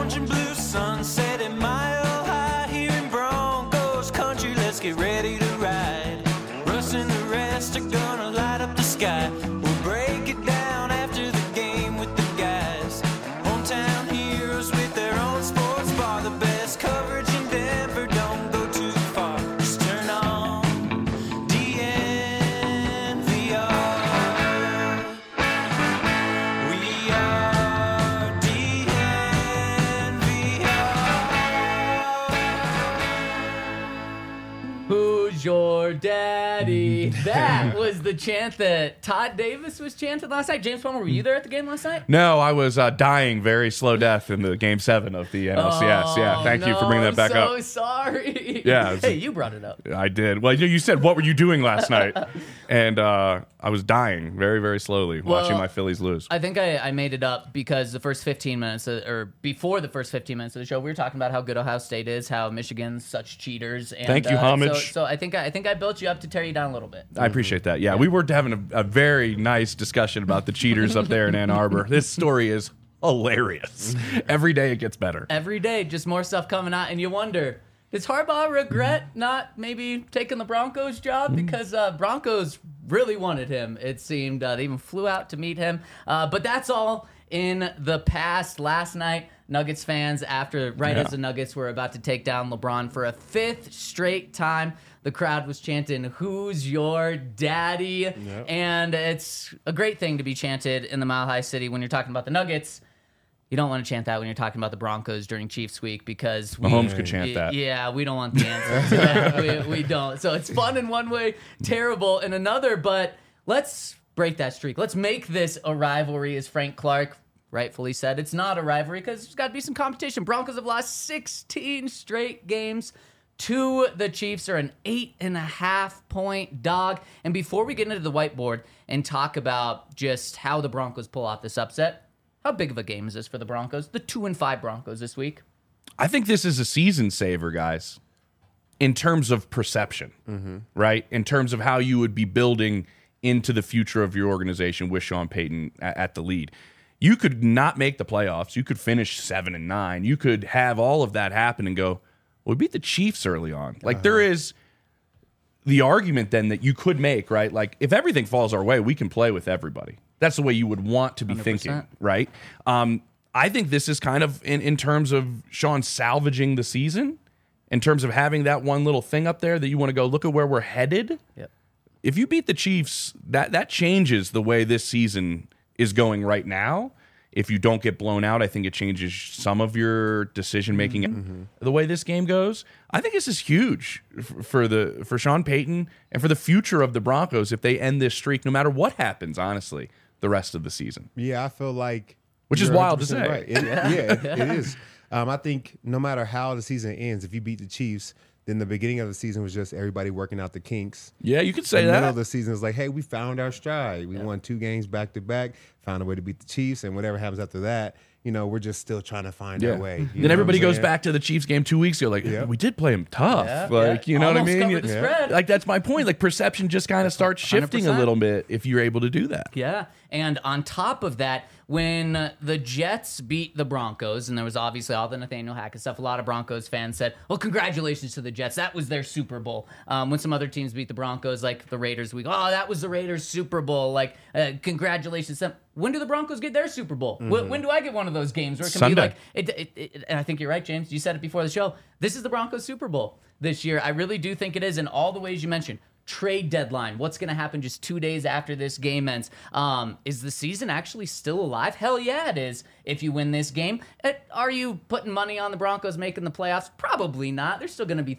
orange and blue sunset at Mile High here in Broncos country. Let's get ready to ride. Russ and the rest are gonna light up the sky. We'll break it down after the game with the guys. Hometown heroes with their own sports bar. The best coverage in Denver, don't go too far. Just turn on DNVR. We are DNVR. Who's your daddy? That was the chant that Todd Davis was chanting last night. James Palmer, were you there at the game last night? No, I was dying very slow death in the Game 7 of the NLCS. Yeah, thank you for bringing that back I'm up. so sorry. Yeah. Hey, you brought it up. I did. Well, you said, what were you doing last night? And I was dying very, very slowly watching my Phillies lose. I think I made it up because the first 15 minutes, or before the first 15 minutes of the show, we were talking about how good Ohio State is, how Michigan's such cheaters. And, Thank you, homage. So I think I built you up to tear you down a little bit. I appreciate that. Yeah, we were having a very nice discussion about the cheaters up there in Ann Arbor. This story is hilarious. Every day it gets better. Every day, just more stuff coming out, and you wonder, does Harbaugh regret not maybe taking the Broncos job? Because Broncos really wanted him, it seemed. They even flew out to meet him. But that's all in the past. Last night, Nuggets fans, as the Nuggets were about to take down LeBron for a 5th straight time, the crowd was chanting, "Who's your daddy?" Yep. And it's a great thing to be chanted in the Mile High City when you're talking about the Nuggets. You don't want to chant that when you're talking about the Broncos during Chiefs week because Mahomes could chant that. Yeah, we don't want the answer to that. We don't. So it's fun in one way, terrible in another. But let's break that streak. Let's make this a rivalry, as Frank Clark rightfully said. It's not a rivalry because there's got to be some competition. Broncos have lost 16 straight games to the Chiefs, are an 8.5-point dog. And before we get into the whiteboard and talk about just how the Broncos pull off this upset, how big of a game is this for the Broncos? The 2-5 Broncos this week. I think this is a season saver, guys, in terms of perception, right? In terms of how you would be building into the future of your organization with Sean Payton at the lead. You could not make the playoffs. You could finish 7-9. You could have all of that happen and go, well, we beat the Chiefs early on. Like, there is the argument then that you could make, right? Like, if everything falls our way, we can play with everybody. That's the way you would want to be 100%. Thinking, right? I think this is kind of in terms of Sean salvaging the season, in terms of having that one little thing up there that you want to go, look at where we're headed. Yep. If you beat the Chiefs, that changes the way this season is going right now. If you don't get blown out, I think it changes some of your decision-making. The way this game goes, I think this is huge for Sean Payton and for the future of the Broncos if they end this streak, no matter what happens, honestly, the rest of the season. Yeah, I feel like... Which is wild to say. Right. It is. I think no matter how the season ends, if you beat the Chiefs, then the beginning of the season was just everybody working out the kinks. Yeah, you could say the that. The middle of the season is like, hey, we found our stride. We won 2 games back-to-back, found a way to beat the Chiefs, and whatever happens after that, we're just still trying to find our way. Then everybody goes back to the Chiefs game 2 weeks ago, like, we did play them tough. You know what I mean? Covered the spread. Like, that's my point. Like, perception just kind of starts shifting 100%. a little bit if you're able to do that. Yeah, and on top of that, when the Jets beat the Broncos, and there was obviously all the Nathaniel Hackett stuff, a lot of Broncos fans said, well, congratulations to the Jets. That was their Super Bowl. When some other teams beat the Broncos, like the Raiders, we go, oh, that was the Raiders' Super Bowl. Like, congratulations. When do the Broncos get their Super Bowl? When do I get one of those games where it can Sunday. be like, and I think you're right, James. You said it before the show. This is the Broncos' Super Bowl this year. I really do think it is in all the ways you mentioned. Trade deadline. What's going to happen just 2 days after this game ends? Is the season actually still alive? Hell yeah, it is. If you win this game, are you putting money on the Broncos making the playoffs? Probably not. They're still going to be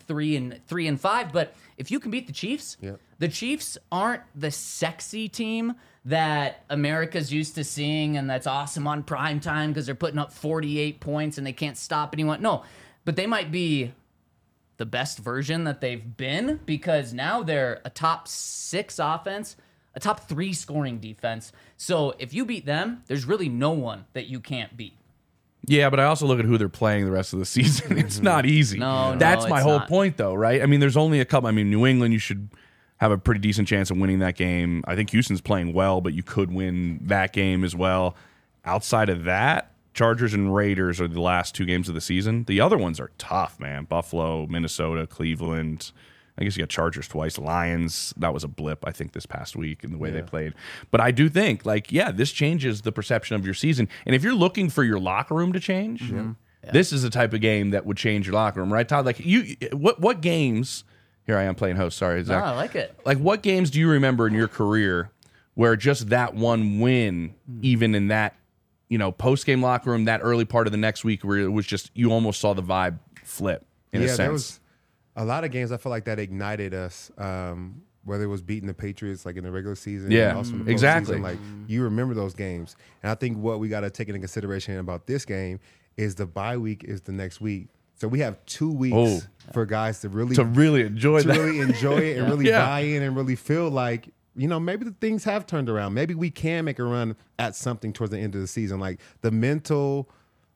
3-5. But if you can beat the Chiefs, the Chiefs aren't the sexy team that America's used to seeing, and that's awesome on prime time because they're putting up 48 points and they can't stop anyone. No, but they might be the best version that they've been because now they're a top 6 offense, a top 3 scoring defense. So if you beat them, there's really no one that you can't beat. Yeah, but I also look at who they're playing the rest of the season. It's not easy. That's my whole point, though, right? I mean, there's only a couple. I mean, New England, you should have a pretty decent chance of winning that game. I think Houston's playing well, but you could win that game as well. Outside of that, Chargers and Raiders are the last 2 games of the season. The other ones are tough, man. Buffalo, Minnesota, Cleveland. I guess you got Chargers twice. Lions, that was a blip, I think, this past week in the way they played. But I do think, this changes the perception of your season. And if you're looking for your locker room to change, this is the type of game that would change your locker room, right, Todd? Like, what games? Here I am playing host. Sorry, Zach. I like it. Like, what games do you remember in your career where just that one win, even in that, post-game locker room, that early part of the next week, where it was just you almost saw the vibe flip in a sense? There was a lot of games I feel like that ignited us. Whether it was beating the Patriots like in the regular season, and also in the exactly. postseason, like you remember those games. And I think what we got to take into consideration about this game is the bye week is the next week. So we have 2 weeks for guys to really enjoy it and really buy in and really feel like, maybe the things have turned around. Maybe we can make a run at something towards the end of the season. Like the mentality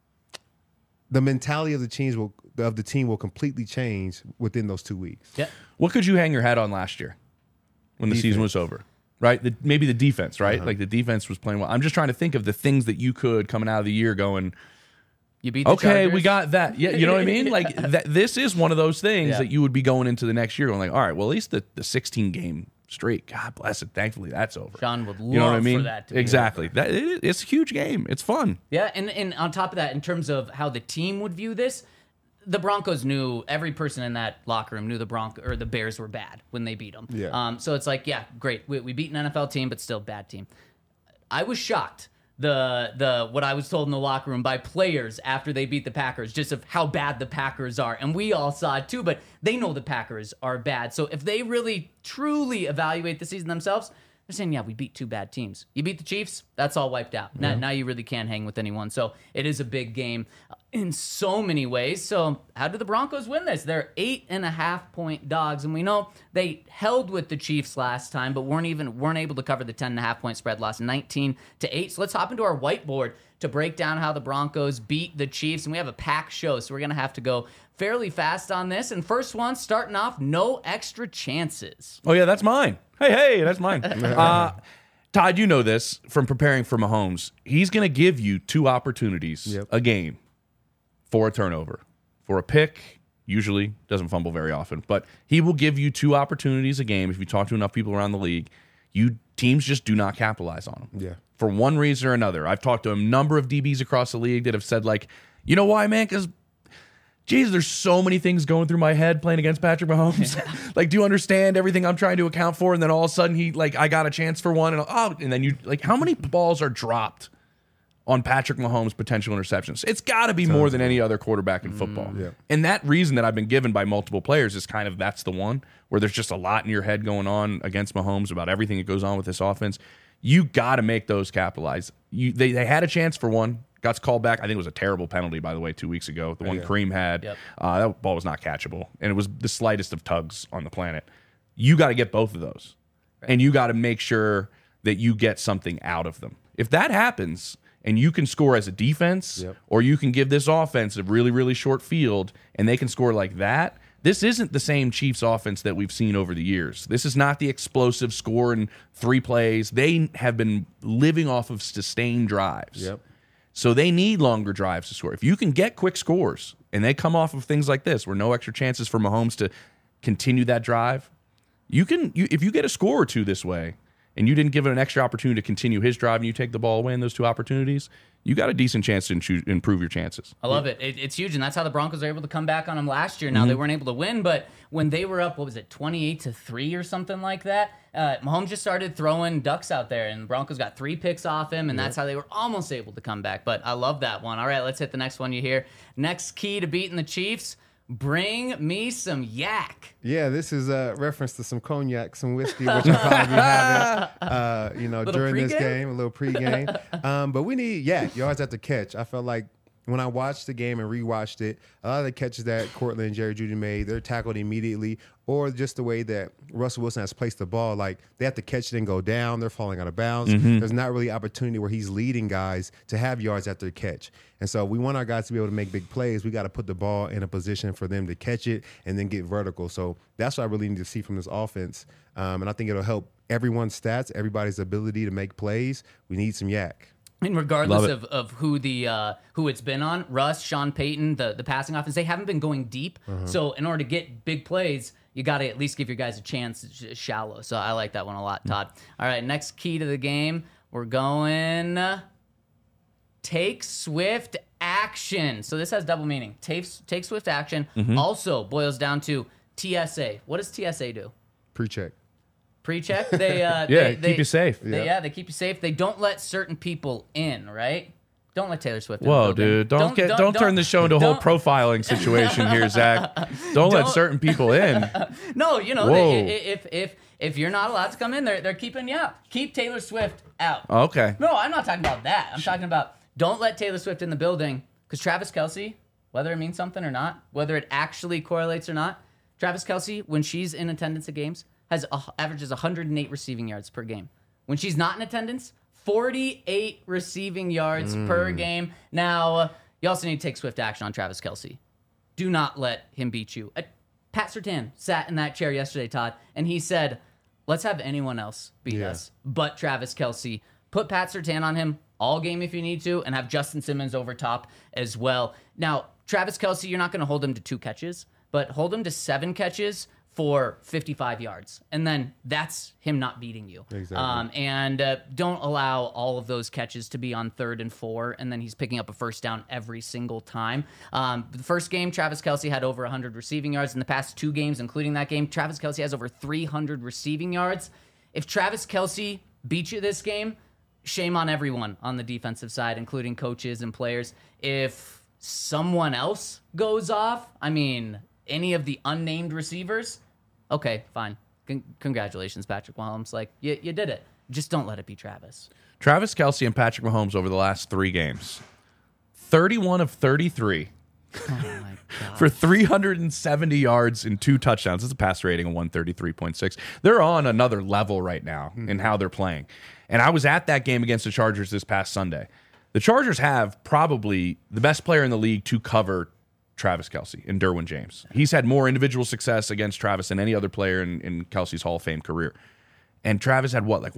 of the team will completely change within those 2 weeks. Yeah. What could you hang your hat on last year when the season was over? Right? Maybe the defense, right? Like the defense was playing well. I'm just trying to think of the things that you could coming out of the year going, you beat the Chargers. we got that. Yeah, you know what I mean? Like this is one of those things that you would be going into the next year going like, all right, well, at least the 16-game streak, God bless it. Thankfully, that's over. Sean would love you know what I mean? for that to be exactly. over. It's a huge game. It's fun. Yeah, and on top of that, in terms of how the team would view this, the Broncos knew, every person in that locker room knew the Bears were bad when they beat them. Yeah. So it's like, yeah, great. We beat an NFL team, but still bad team. I was shocked. What I was told in the locker room by players after they beat the Packers, just of how bad the Packers are. And we all saw it too, but they know the Packers are bad. So if they really, truly evaluate the season themselves, they're saying, yeah, we beat 2 bad teams. You beat the Chiefs, that's all wiped out. Now you really can't hang with anyone. So it is a big game in so many ways. So how did the Broncos win this? They're 8.5-point dogs, and we know they held with the Chiefs last time, but weren't able to cover the 10.5-point spread, lost 19-8. So let's hop into our whiteboard to break down how the Broncos beat the Chiefs, and we have a packed show, so we're gonna have to go fairly fast on this. And first one, starting off, no extra chances. Oh yeah, that's mine. Hey, that's mine. Todd, you know this from preparing for Mahomes. He's going to give you 2 opportunities a game for a turnover, for a pick. Usually doesn't fumble very often, but he will give you 2 opportunities a game. If you talk to enough people around the league, teams just do not capitalize on them. Yeah. For one reason or another. I've talked to a number of DBs across the league that have said, like, you know why, man? Because geez, there's so many things going through my head playing against Patrick Mahomes. Like, do you understand everything I'm trying to account for? And then all of a sudden I got a chance for one. And then how many balls are dropped on Patrick Mahomes' potential interceptions? It's got to be more than any other quarterback in football. Yeah. And that reason that I've been given by multiple players is kind of, that's the one where there's just a lot in your head going on against Mahomes about everything that goes on with this offense. You got to make those capitalize. They had a chance for one. Got called back. I think it was a terrible penalty, by the way, 2 weeks ago. The one Kareem had. Yep. That ball was not catchable. And it was the slightest of tugs on the planet. You got to get both of those. Right. And you got to make sure that you get something out of them. If that happens and you can score as a defense, or you can give this offense a really, really short field and they can score like that, this isn't the same Chiefs offense that we've seen over the years. This is not the explosive score in 3 plays. They have been living off of sustained drives. Yep. So they need longer drives to score. If you can get quick scores and they come off of things like this where no extra chances for Mahomes to continue that drive, if you get a score or 2 this way and you didn't give it an extra opportunity to continue his drive and you take the ball away in those 2 opportunities, you got a decent chance to improve your chances. I love it. It's huge, and that's how the Broncos are able to come back on them last year. Now, they weren't able to win, but when they were up, 28-3 or something like that, Mahomes just started throwing ducks out there, and the Broncos got 3 picks off him, and that's how they were almost able to come back. But I love that one. All right, let's hit the next one you hear. Next key to beating the Chiefs, bring me some yak. Yeah, this is a reference to some cognac, some whiskey, which I'll probably be having, during this game, a little pregame. But we need yak, yards after catch. I felt like when I watched the game and rewatched it, a lot of the catches that Cortland and Jerry Jeudy made, they're tackled immediately, or just the way that Russell Wilson has placed the ball, like they have to catch it and go down. They're falling out of bounds. There's not really opportunity where he's leading guys to have yards after the catch. And so we want our guys to be able to make big plays. We got to put the ball in a position for them to catch it and then get vertical. So that's what I really need to see from this offense. And I think it'll help everyone's stats, everybody's ability to make plays. We need some yak. And regardless of who it's been on, Russ, Sean Payton, the passing offense, they haven't been going deep. So in order to get big plays, you got to at least give your guys a chance. It's shallow. So I like that one a lot, Todd. All right, next key to the game. We're going take swift action. So this has double meaning. Take swift action also boils down to TSA. What does TSA do? Pre-check. Pre-check. They keep you safe. They keep you safe. They don't let certain people in, right? Don't let Taylor Swift in. Whoa, dude! Don't turn the show into a whole profiling situation here, Zach. Don't let certain people in. No, you know, if you're not allowed to come in, they're keeping you out. Keep Taylor Swift out. Okay. No, I'm not talking about that. I'm talking about don't let Taylor Swift in the building, because Travis Kelce, whether it means something or not, whether it actually correlates or not, Travis Kelce, when she's in attendance at games, averages 108 receiving yards per game. When she's not in attendance, 48 receiving yards per game. Now, you also need to take swift action on Travis Kelce. Do not let him beat you. Pat Surtain sat in that chair yesterday, Todd, and he said, let's have anyone else beat us but Travis Kelce. Put Pat Surtain on him all game if you need to, and have Justin Simmons over top as well. Now, Travis Kelce, you're not going to hold him to 2 catches, but hold him to 7 catches for 55 yards. And then that's him not beating you. Exactly. And don't allow all of those catches to be on 3rd and 4, and then he's picking up a first down every single time. The first game, Travis Kelce had over 100 receiving yards. In the past 2 games, including that game, Travis Kelce has over 300 receiving yards. If Travis Kelce beats you this game, shame on everyone on the defensive side, including coaches and players. If someone else goes off, I mean, any of the unnamed receivers, okay, fine. Congratulations, Patrick Mahomes. Like, you did it. Just don't let it be Travis. Travis Kelce and Patrick Mahomes over the last 3 games, 31 of 33 for 370 yards and 2 touchdowns. That's a pass rating of 133.6. They're on another level right now in how they're playing. And I was at that game against the Chargers this past Sunday. The Chargers have probably the best player in the league to cover Travis Kelce and Derwin James. He's had more individual success against Travis than any other player in Kelce's Hall of Fame career. And Travis had what, like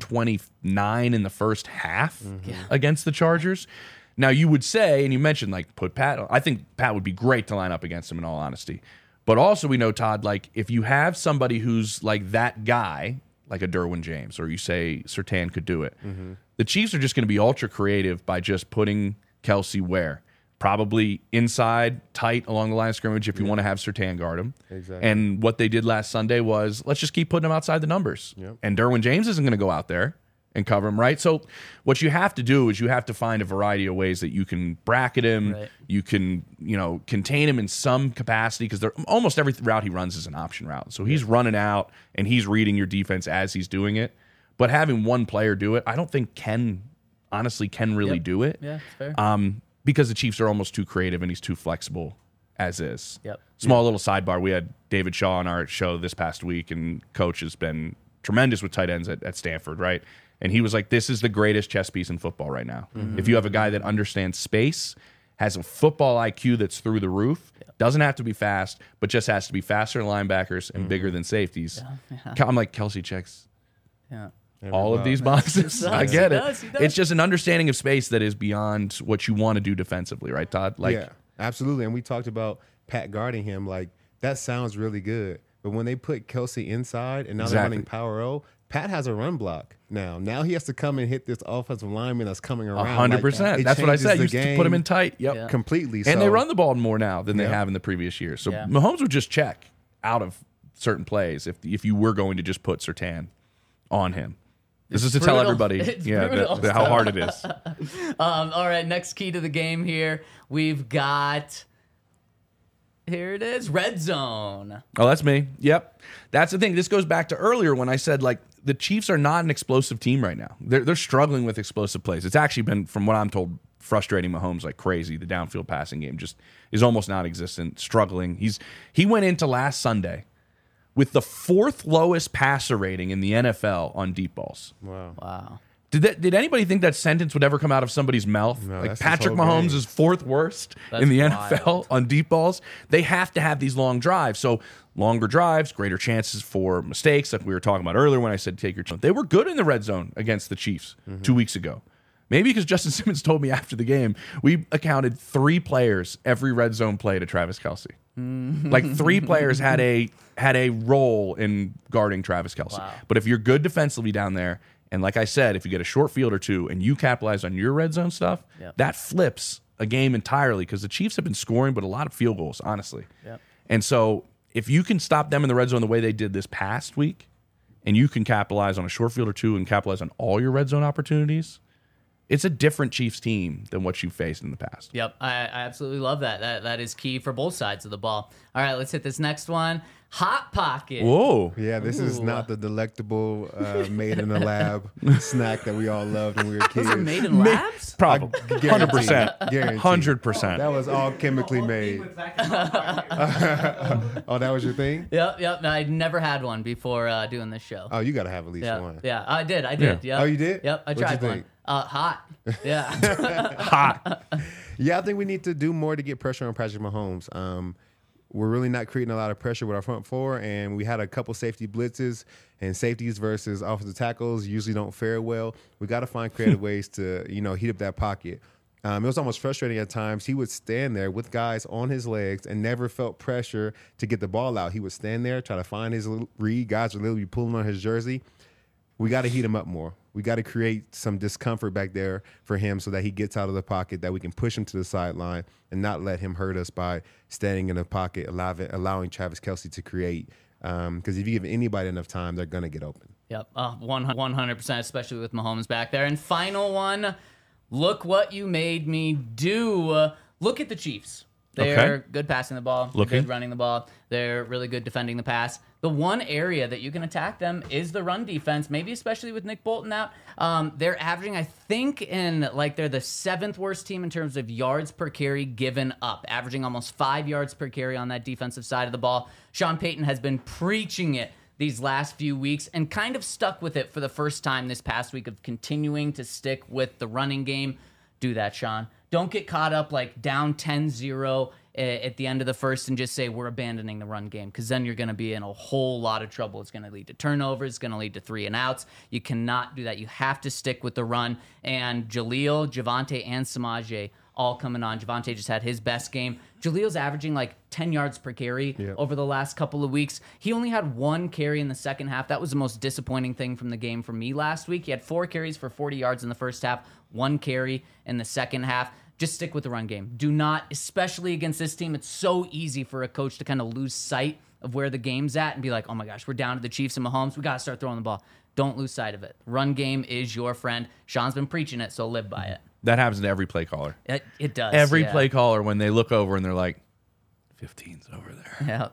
129 in the first half against the Chargers? Now, you would say, and you mentioned, like, put Pat on. I think Pat would be great to line up against him, in all honesty. But also, we know, Todd, like, if you have somebody who's like that guy, like a Derwin James, or you say Surtain could do it, the Chiefs are just going to be ultra creative by just putting Kelce where? Probably inside, tight along the line of scrimmage if you want to have Surtain guard him. Exactly. And what they did last Sunday was, let's just keep putting him outside the numbers. Yep. And Derwin James isn't going to go out there and cover him, right? So what you have to do is you have to find a variety of ways that you can bracket him. Right. You can, contain him in some capacity, because almost every route he runs is an option route. So he's running out and he's reading your defense as he's doing it. But having one player do it, I don't think can really do it. Yeah, it's fair. Because the Chiefs are almost too creative and he's too flexible as is. Yep. Small little sidebar. We had David Shaw on our show this past week, and Coach has been tremendous with tight ends at Stanford, right? And he was like, this is the greatest chess piece in football right now. If you have a guy that understands space, has a football IQ that's through the roof, doesn't have to be fast, but just has to be faster than linebackers and bigger than safeties. I'm like, Kelce checks all of these boxes. I get it. He does. It's just an understanding of space that is beyond what you want to do defensively, right, Todd? Like, yeah, absolutely. And we talked about Pat guarding him. Like, that sounds really good. But when they put Kelce inside and now they're running power O, Pat has a run block now. Now he has to come and hit this offensive lineman that's coming around. 100%. That's what I said. You used to put him in tight. Yep. Yeah. Completely. And they run the ball more now than they have in the previous years. So Mahomes would just check out of certain plays if you were going to just put Surtain on him. This is to tell everybody how hard it is. All right, next key to the game here. We've got, here it is, red zone. Oh, that's me. Yep. That's the thing. This goes back to earlier when I said, like, the Chiefs are not an explosive team right now. They're struggling with explosive plays. It's actually been, from what I'm told, frustrating Mahomes like crazy. The downfield passing game just is almost non-existent, struggling. He went into last Sunday with the 4th lowest passer rating in the NFL on deep balls. Wow. Did anybody think that sentence would ever come out of somebody's mouth? No, like Patrick Mahomes is 4th worst in the NFL on deep balls. They have to have these long drives. So longer drives, greater chances for mistakes, like we were talking about earlier when I said take your time. They were good in the red zone against the Chiefs 2 weeks ago. Maybe because Justin Simmons told me after the game, we accounted 3 players every red zone play to Travis Kelce. Like 3 players had a role in guarding Travis Kelce. Wow. But if you're good defensively down there, and like I said, if you get a short field or 2 and you capitalize on your red zone stuff, Yep. that flips a game entirely because the Chiefs have been scoring, but a lot of field goals, honestly. Yep. And so if you can stop them in the red zone the way they did this past week, and you can capitalize on a short field or 2 and capitalize on all your red zone opportunities, it's a different Chiefs team than what you faced in the past. Yep, I absolutely love that. That is key for both sides of the ball. All right, let's hit this next one. Hot Pocket. Whoa. Yeah, this is not the delectable made in the lab snack that we all loved when we were kids. Those are made in labs? Probably. Guaranteed. 100%. Guaranteed. 100%. That was all chemically made. Oh, that was your thing? Yep. I'd never had one before doing this show. Oh, you got to have at least one. Yeah, I did. Yeah. Yep. Oh, you did? Yep, I What'd you tried one. think? Hot. Yeah. Hot. Yeah, I think we need to do more to get pressure on Patrick Mahomes. We're really not creating a lot of pressure with our front four, and we had a couple safety blitzes, and safeties versus offensive tackles usually don't fare well. We got to find creative ways to, heat up that pocket. It was almost frustrating at times. He would stand there with guys on his legs and never felt pressure to get the ball out. He would stand there, try to find his read. Guys would literally be pulling on his jersey. We got to heat him up more. We got to create some discomfort back there for him so that he gets out of the pocket, that we can push him to the sideline and not let him hurt us by standing in the pocket, allowing Travis Kelce to create. Because if you give anybody enough time, they're going to get open. Yep, 100%, especially with Mahomes back there. And final one, look what you made me do. Look at the Chiefs. They're good passing the ball, good running the ball. They're really good defending the pass. The one area that you can attack them is the run defense, maybe especially with Nick Bolton out. They're averaging, I think, they're the 7th worst team in terms of yards per carry given up, averaging almost 5 yards per carry on that defensive side of the ball. Sean Payton has been preaching it these last few weeks and kind of stuck with it for the first time this past week of continuing to stick with the running game. Do that, Sean. Don't get caught up down 10-0 at the end of the first and just say we're abandoning the run game, because then you're going to be in a whole lot of trouble. It's going to lead to turnovers. It's going to lead to 3 and outs. You cannot do that. You have to stick with the run. And Jaleel, Javonte, and Samaje all coming on. Javonte just had his best game. Jaleel's averaging 10 yards per carry over the last couple of weeks. He only had 1 carry in the second half. That was the most disappointing thing from the game for me last week. He had 4 carries for 40 yards in the first half, 1 carry in the second half. Just stick with the run game. Do not, especially against this team, it's so easy for a coach to kind of lose sight of where the game's at and be like, oh my gosh, we're down to the Chiefs and Mahomes. We got to start throwing the ball. Don't lose sight of it. Run game is your friend. Sean's been preaching it, so live by it. That happens to every play caller. It does. Every play caller, when they look over and they're like, 15's over there. Yeah.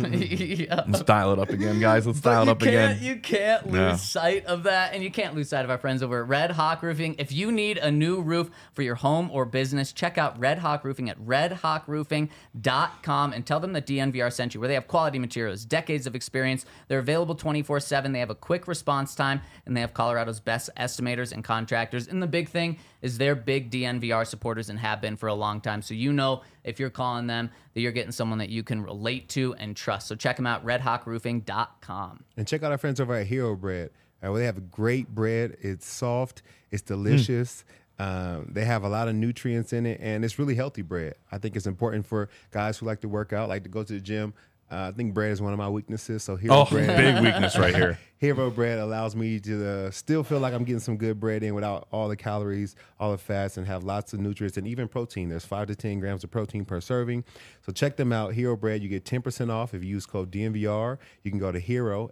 Yeah. Let's dial it up again, guys. Let's dial it up again. You can't lose sight of that, and you can't lose sight of our friends over at Red Hawk Roofing. If you need a new roof for your home or business, check out Red Hawk Roofing at redhawkroofing.com and tell them that DNVR sent you, where they have quality materials, decades of experience. They're available 24/7. They have a quick response time, and they have Colorado's best estimators and contractors. And the big thing is they're big DNVR supporters and have been for a long time. So you know if you're calling them that you're getting someone that you can relate to and trust. So check them out, redhawkroofing.com. And check out our friends over at Hero Bread. They have great bread. It's soft. It's delicious. They have a lot of nutrients in it, and it's really healthy bread. I think it's important for guys who like to work out, like to go to the gym. I think bread is one of my weaknesses. So Hero Bread, big weakness right here. Hero Bread allows me to still feel like I'm getting some good bread in without all the calories, all the fats, and have lots of nutrients and even protein. There's 5 to 10 grams of protein per serving. So check them out, Hero Bread. You get 10% off if you use code DNVR. You can go to Hero,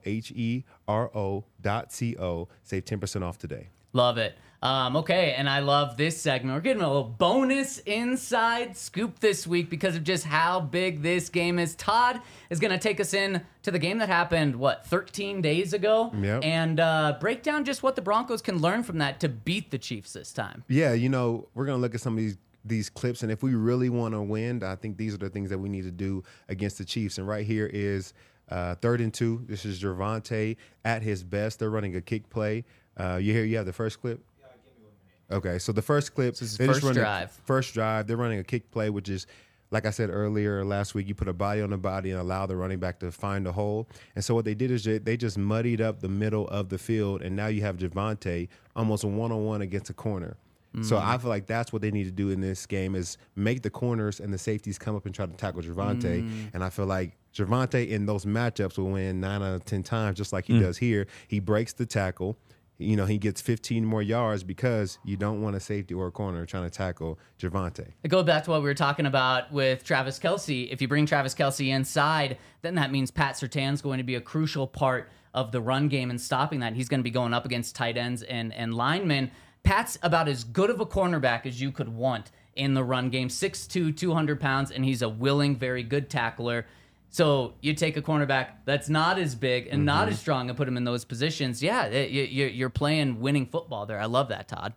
HERO.co. Save 10% off today. Love it. Okay, and I love this segment. We're getting a little bonus inside scoop this week because of just how big this game is. Todd is going to take us in to the game that happened, 13 days ago? Yep. And break down just what the Broncos can learn from that to beat the Chiefs this time. Yeah, we're going to look at some of these clips, and if we really want to win, I think these are the things that we need to do against the Chiefs. And right here is 3rd and 2. This is Javonte at his best. They're running a kick play. You have the first clip? Yeah, give me 1 minute. Okay, so the first clip. This is first drive. First drive. They're running a kick play, which is, like I said earlier last week, you put a body on the body and allow the running back to find a hole. And so what they did is they just muddied up the middle of the field, and now you have Javonte almost a one-on-one against a corner. So I feel like that's what they need to do in this game is make the corners and the safeties come up and try to tackle Gervonta. And I feel like Gervonta in those matchups will win 9 out of 10 times, just like he does here. He breaks the tackle. You know, he gets 15 more yards because you don't want a safety or a corner trying to tackle Gervonta. It goes back to what we were talking about with Travis Kelce. If you bring Travis Kelce inside, then that means Pat Surtain's going to be a crucial part of the run game and stopping that. He's going to be going up against tight ends and linemen. Pat's about as good of a cornerback as you could want in the run game. 6'2", 200 pounds, and he's a willing, very good tackler. So you take a cornerback that's not as big and not as strong and put him in those positions. Yeah, you're playing winning football there. I love that, Todd.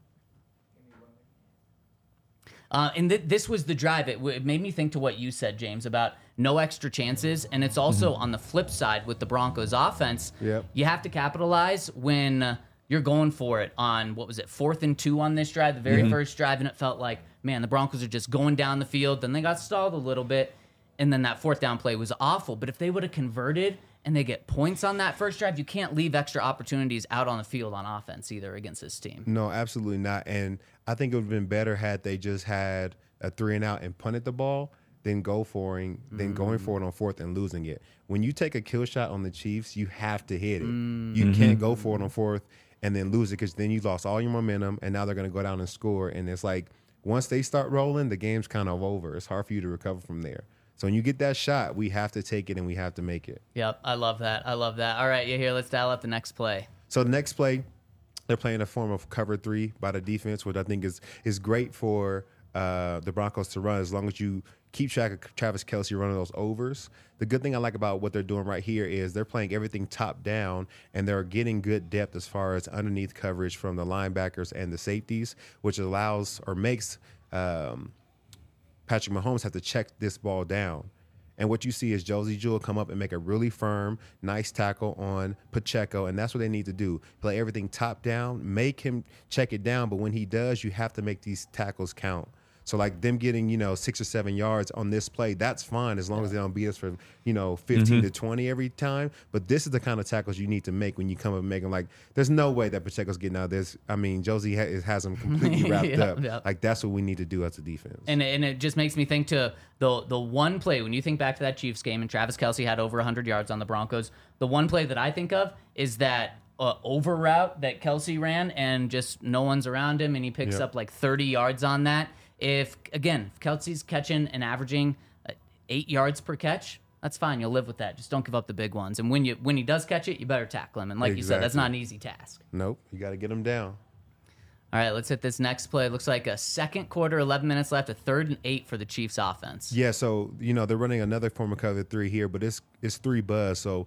And this was the drive. It made me think to what you said, James, about no extra chances. And it's also on the flip side with the Broncos offense. Yep. You have to capitalize when you're going for it on, 4th and 2 on this drive, the very first drive. And it felt like, man, the Broncos are just going down the field. Then they got stalled a little bit. And then that 4th down play was awful. But if they would have converted and they get points on that first drive, you can't leave extra opportunities out on the field on offense either against this team. No, absolutely not. And I think it would have been better had they just had a 3-and-out and punted the ball than going for it on 4th and losing it. When you take a kill shot on the Chiefs, you have to hit it. You can't go for it on 4th and then lose it because then you lost all your momentum and now they're going to go down and score. And it's like once they start rolling, the game's kind of over. It's hard for you to recover from there. So when you get that shot, we have to take it and we have to make it. Yep, I love that. I love that. All right, here, let's dial up the next play. So the next play, they're playing a form of cover 3 by the defense, which I think is great for the Broncos to run as long as you keep track of Travis Kelce running those overs. The good thing I like about what they're doing right here is they're playing everything top down, and they're getting good depth as far as underneath coverage from the linebackers and the safeties, which allows or makes Patrick Mahomes have to check this ball down. And what you see is Josey Jewell come up and make a really firm, nice tackle on Pacheco, and that's what they need to do. Play everything top down, make him check it down, but when he does, you have to make these tackles count. So like them getting, 6 or 7 yards on this play, that's fine as long as they don't beat us for, 15 to 20 every time. But this is the kind of tackles you need to make when you come up and make them. Like, there's no way that Pacheco's getting out of this. I mean, Josey has him completely wrapped up. Yep. Like, that's what we need to do as a defense. And it just makes me think to the one play, when you think back to that Chiefs game and Travis Kelce had over 100 yards on the Broncos, the one play that I think of is that over route that Kelce ran and just no one's around him and he picks up like 30 yards on that. If Kelce's catching and averaging 8 yards per catch, that's fine. You'll live with that. Just don't give up the big ones. And when he does catch it, you better tackle him. And like you said, that's not an easy task. Nope. You got to get him down. All right, let's hit this next play. It looks like a second quarter, 11 minutes left, a 3rd and 8 for the Chiefs offense. Yeah, so, they're running another form of cover 3 here, but it's 3 buzz. So,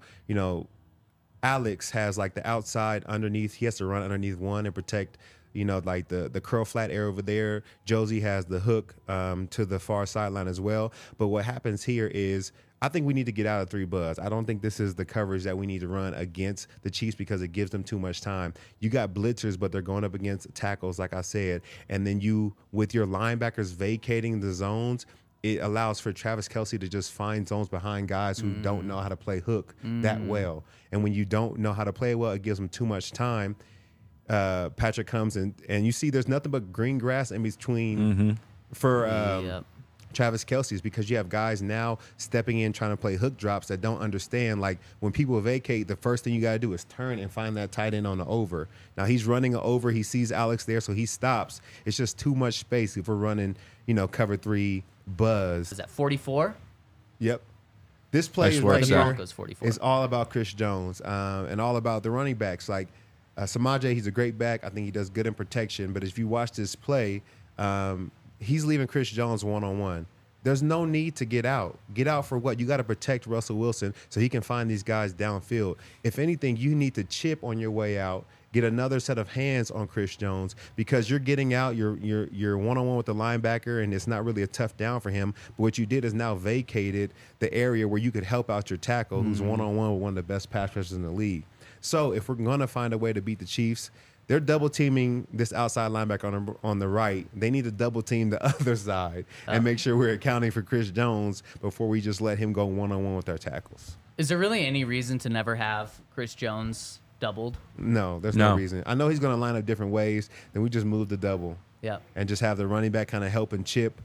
Alex has like the outside underneath. He has to run underneath one and protect like the curl flat area over there. Josey has the hook to the far sideline as well. But what happens here is I think we need to get out of 3 buzz. I don't think this is the coverage that we need to run against the Chiefs because it gives them too much time. You got blitzers, but they're going up against tackles, like I said. And then you, with your linebackers vacating the zones, it allows for Travis Kelce to just find zones behind guys who don't know how to play hook that well. And when you don't know how to play well, it gives them too much time. Patrick comes and you see there's nothing but green grass in between for Travis Kelce's because you have guys now stepping in trying to play hook drops that don't understand. Like when people vacate, the first thing you got to do is turn and find that tight end on the over. Now he's running an over. He sees Alex there, so he stops. It's just too much space if we're running, cover 3 buzz. Is that 44? Yep. This play is right here. 44. It's all about Chris Jones and all about the running backs. Like Samaje, he's a great back. I think he does good in protection. But if you watch this play, he's leaving Chris Jones one-on-one. There's no need to get out. Get out for what? You got to protect Russell Wilson so he can find these guys downfield. If anything, you need to chip on your way out, get another set of hands on Chris Jones because you're getting out, you're one-on-one with the linebacker, and it's not really a tough down for him. But what you did is now vacated the area where you could help out your tackle who's one-on-one with one of the best pass rushers in the league. So if we're going to find a way to beat the Chiefs, they're double teaming this outside linebacker on the right. They need to double team the other side and make sure we're accounting for Chris Jones before we just let him go one-on-one with our tackles. Is there really any reason to never have Chris Jones doubled. No, there's no No. reason. I know he's going to line up different ways. Then we just move the double. Yep. And just have the running back kind of help and chip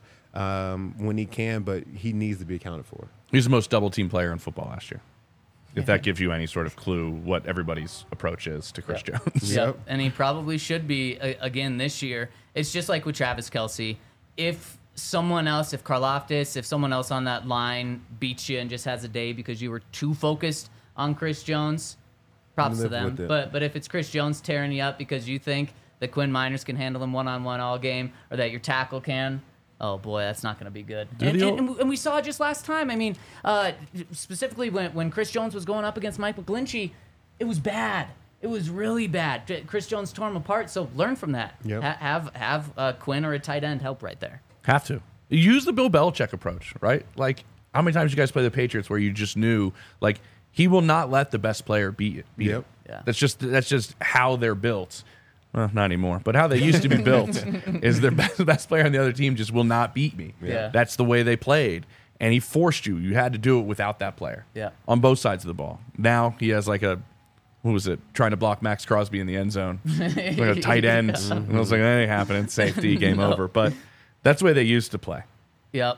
when he can, but he needs to be accounted for. He's the most double team player in football last year. If that gives you any sort of clue what everybody's approach is to Chris Jones. Yep. And he probably should be again this year. It's just like with Travis Kelce. If someone else, if Karlaftis, if someone else on that line beats you and just has a day because you were too focused on Chris Jones, props to Live them. with it. But if it's Chris Jones tearing you up because you think that Quinn Miners can handle him one-on-one all game or that your tackle can, oh boy, that's not going to be good. And we saw it just last time. I mean, specifically when Chris Jones was going up against Mike McGlinchey, it was bad. It was really bad. Chris Jones tore him apart. So learn from that. Yep. Have Quinn or a tight end help right there. Have to. Use the Bill Belichick approach, right? Like, how many times you guys play the Patriots where you just knew, like, he will not let the best player beat Yep. him. Yeah. That's just how they're built. Well, not anymore, but how they used to be built is their best player on the other team just will not beat me. Yeah. That's the way they played. And he forced you. You had to do it without that player. Yeah. On both sides of the ball. Now he has like a, what was it, trying to block Max Crosby in the end zone. Like a tight end. And I was like, that ain't happening. Safety, game over. But that's the way they used to play. Yep.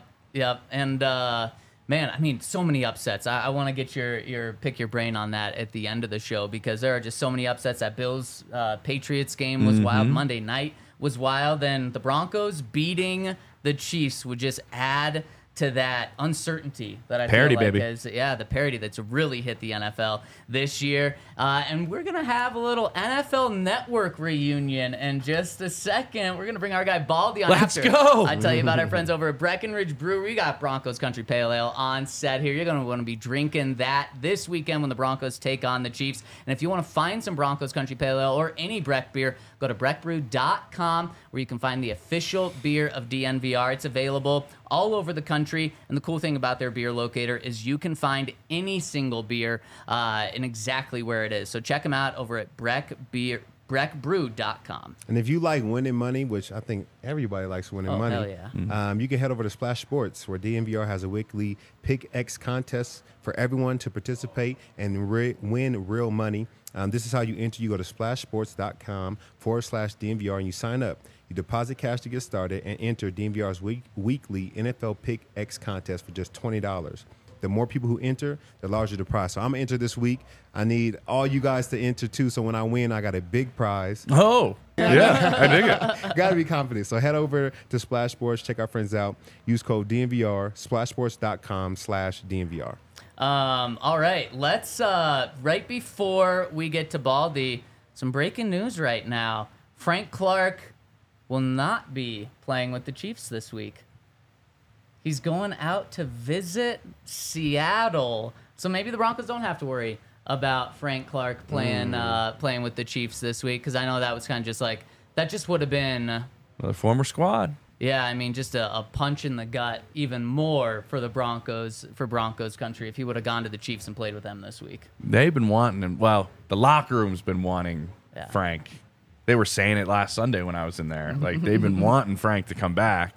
And man, I mean, so many upsets. I want to get your pick your brain on that at the end of the show because there are just so many upsets. That Bills Patriots game was wild. Monday night was wild. And the Broncos beating the Chiefs would just add to that uncertainty that I Parity, feel like baby. has, the parity that's really hit the NFL this year. And we're going to have a little NFL Network reunion in just a second. We're going to bring our guy Baldy on Let's after. go. I tell you about our friends over at Breckenridge Brewery. We got Broncos Country Pale Ale on set here. You're going to want to be drinking that this weekend when the Broncos take on the Chiefs. And if you want to find some Broncos Country Pale Ale or any Breck beer, go to breckbrew.com where you can find the official beer of DNVR. It's available all over the country. And the cool thing about their beer locator is you can find any single beer in exactly where it is. So check them out over at breckbrew.com. And if you like winning money, which I think everybody likes winning money, hell yeah. you can head over to Splash Sports, where DNVR has a weekly Pick X contest for everyone to participate and win real money. This is how you enter. You go to splashsports.com/DNVR and you sign up. You deposit cash to get started and enter DNVR's weekly NFL Pick X contest for just $20. The more people who enter, the larger the prize. So I'm going to enter this week. I need all you guys to enter too. So when I win, I got a big prize. Oh, yeah. I dig it. Got to be confident. So head over to Splash Sports. Check our friends out. Use code DNVR, splashsports.com/DNVR. All right, let's right before we get to Baldy, some breaking news right now. Frank Clark will not be playing with the Chiefs this week. He's going out to visit Seattle, so maybe the Broncos don't have to worry about Frank Clark playing with the Chiefs this week, because I know that was kind of just like that just would have been The former squad. Yeah, I mean, just a punch in the gut even more for the Broncos, for Broncos country, if he would have gone to the Chiefs and played with them this week. They've been wanting him. Well, the locker room's been wanting Frank. They were saying it last Sunday when I was in there. Like, they've been wanting Frank to come back.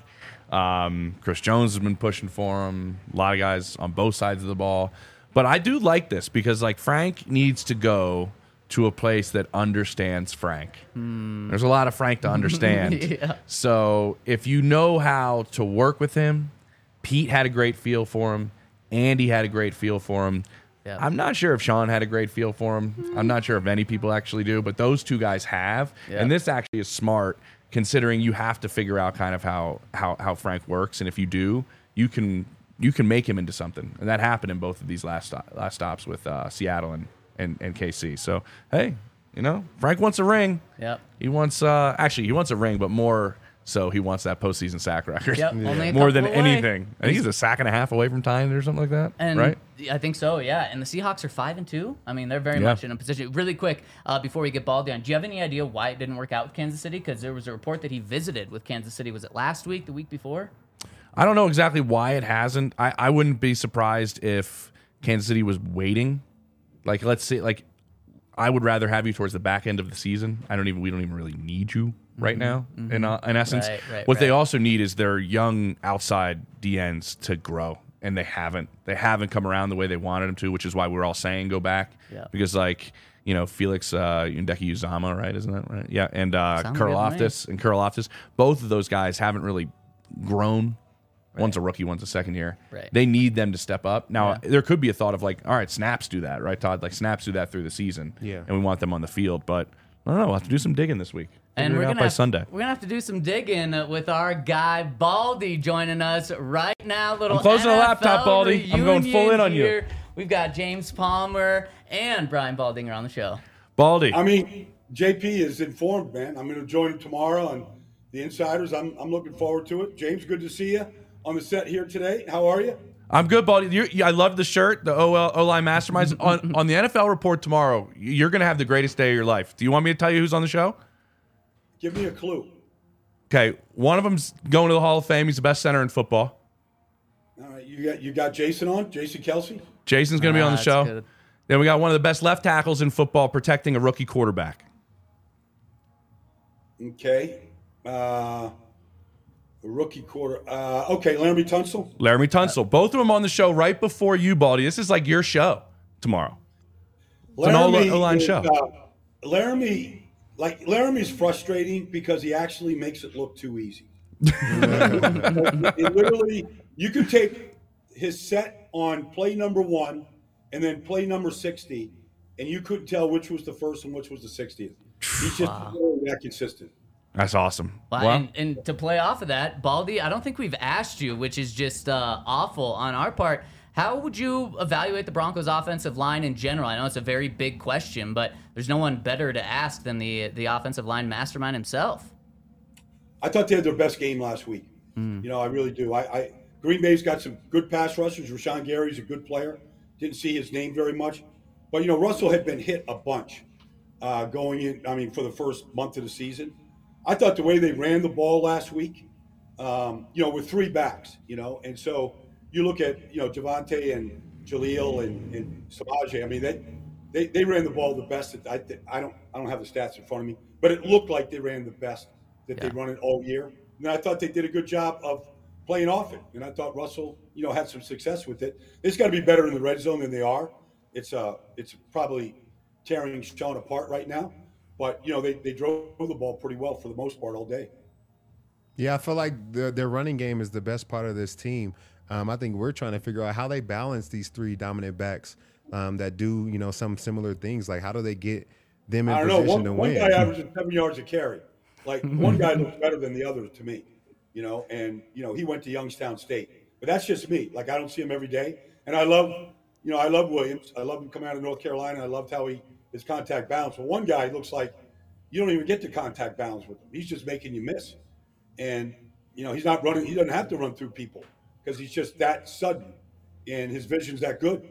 Chris Jones has been pushing for him. A lot of guys on both sides of the ball. But I do like this because, like, Frank needs to go to a place that understands Frank. There's a lot of Frank to understand. Yeah. So if you know how to work with him, Pete had a great feel for him. Andy had a great feel for him. Yeah. I'm not sure if Sean had a great feel for him. I'm not sure if any people actually do, but those two guys have. Yeah. And this actually is smart, considering you have to figure out kind of how Frank works. And if you do, you can make him into something. And that happened in both of these last stops with Seattle and KC. So, hey, you know, Frank wants a ring. Yep. He wants he wants a ring, but more so he wants that postseason sack record. Yep. Only a More than couple away. anything. I think he's a sack and a half away from tying or something like that. And right? I think so, yeah. And the Seahawks are 5-2. I mean, they're very much in a position. Really quick, before we get Baldy on, do you have any idea why it didn't work out with Kansas City? Because there was a report that he visited with Kansas City. Was it last week, the week before? I don't know exactly why it hasn't. I wouldn't be surprised if Kansas City was waiting. Like, let's say, like, I would rather have you towards the back end of the season. We don't even really need you right now. In essence, Right, what they right. also need is their young outside DNs to grow and they haven't come around the way they wanted them to, which is why we're all saying go back. Yeah. Because like, Felix Ndeki Uzama, right? Isn't that right? Yeah, and Karlaftis, both of those guys haven't really grown. Right. One's a rookie, one's a second year. Right. They need them to step up. Now, there could be a thought of like, all right, snaps do that, right, Todd? Like snaps do that through the season. Yeah. And we want them on the field, but I don't know. We'll have to do some digging this week. And we're by Sunday. We're gonna have to do some digging with our guy Baldy joining us right now. I'm closing the laptop, Baldy. I'm going full in on you. We've got James Palmer and Brian Baldinger on the show. Baldy. I mean, JP is informed, man. I'm going to join him tomorrow on the Insiders. I'm looking forward to it. James, good to see you on the set here today. How are you? I'm good, Baldy. I love the shirt, the O-line Masterminds. on the NFL Report tomorrow, you're going to have the greatest day of your life. Do you want me to tell you who's on the show? Give me a clue. Okay, one of them's going to the Hall of Fame. He's the best center in football. All right, you got Jason on, Jason Kelsey. Jason's going to be on the show. Good. Then we got one of the best left tackles in football protecting a rookie quarterback. Okay. A rookie quarter. Okay, Laramie Tunsil. Laramie Tunsil. Both of them on the show right before you, Baldy. This is like your show tomorrow. It's an O-line show. Laramie's frustrating because he actually makes it look too easy. It literally, you could take his set on play number 1 and then play number 60, and you couldn't tell which was the first and which was the 60th. He's just that consistent. That's awesome. Well, and to play off of that, Baldy, I don't think we've asked you, which is just awful on our part. How would you evaluate the Broncos' offensive line in general? I know it's a very big question, but there's no one better to ask than the offensive line mastermind himself. I thought they had their best game last week. I really do. Green Bay's got some good pass rushers. Rashawn Gary's a good player. Didn't see his name very much. But, Russell had been hit a bunch going in, for the first month of the season. I thought the way they ran the ball last week, with 3 backs, and so you look at, Javonte and Jaleel and Samaje. I mean, they ran the ball the best. I don't have the stats in front of me, but it looked like they ran the best that they run it all year. And I thought they did a good job of playing off it. And I thought Russell, had some success with it. It's got to be better in the red zone than they are. It's probably tearing Sean apart right now. But, they drove the ball pretty well for the most part all day. Yeah, I feel like their running game is the best part of this team. I think we're trying to figure out how they balance these 3 dominant backs that do, some similar things. Like, how do they get them in position to win? One guy averages 7 yards a carry. Like, one guy looks better than the other to me, and, he went to Youngstown State. But that's just me. Like, I don't see him every day. And I love Williams. I love him coming out of North Carolina. I loved how his contact balance. But one guy looks like you don't even get to contact balance with him. He's just making you miss. And, he's not running. He doesn't have to run through people because he's just that sudden. And his vision's that good.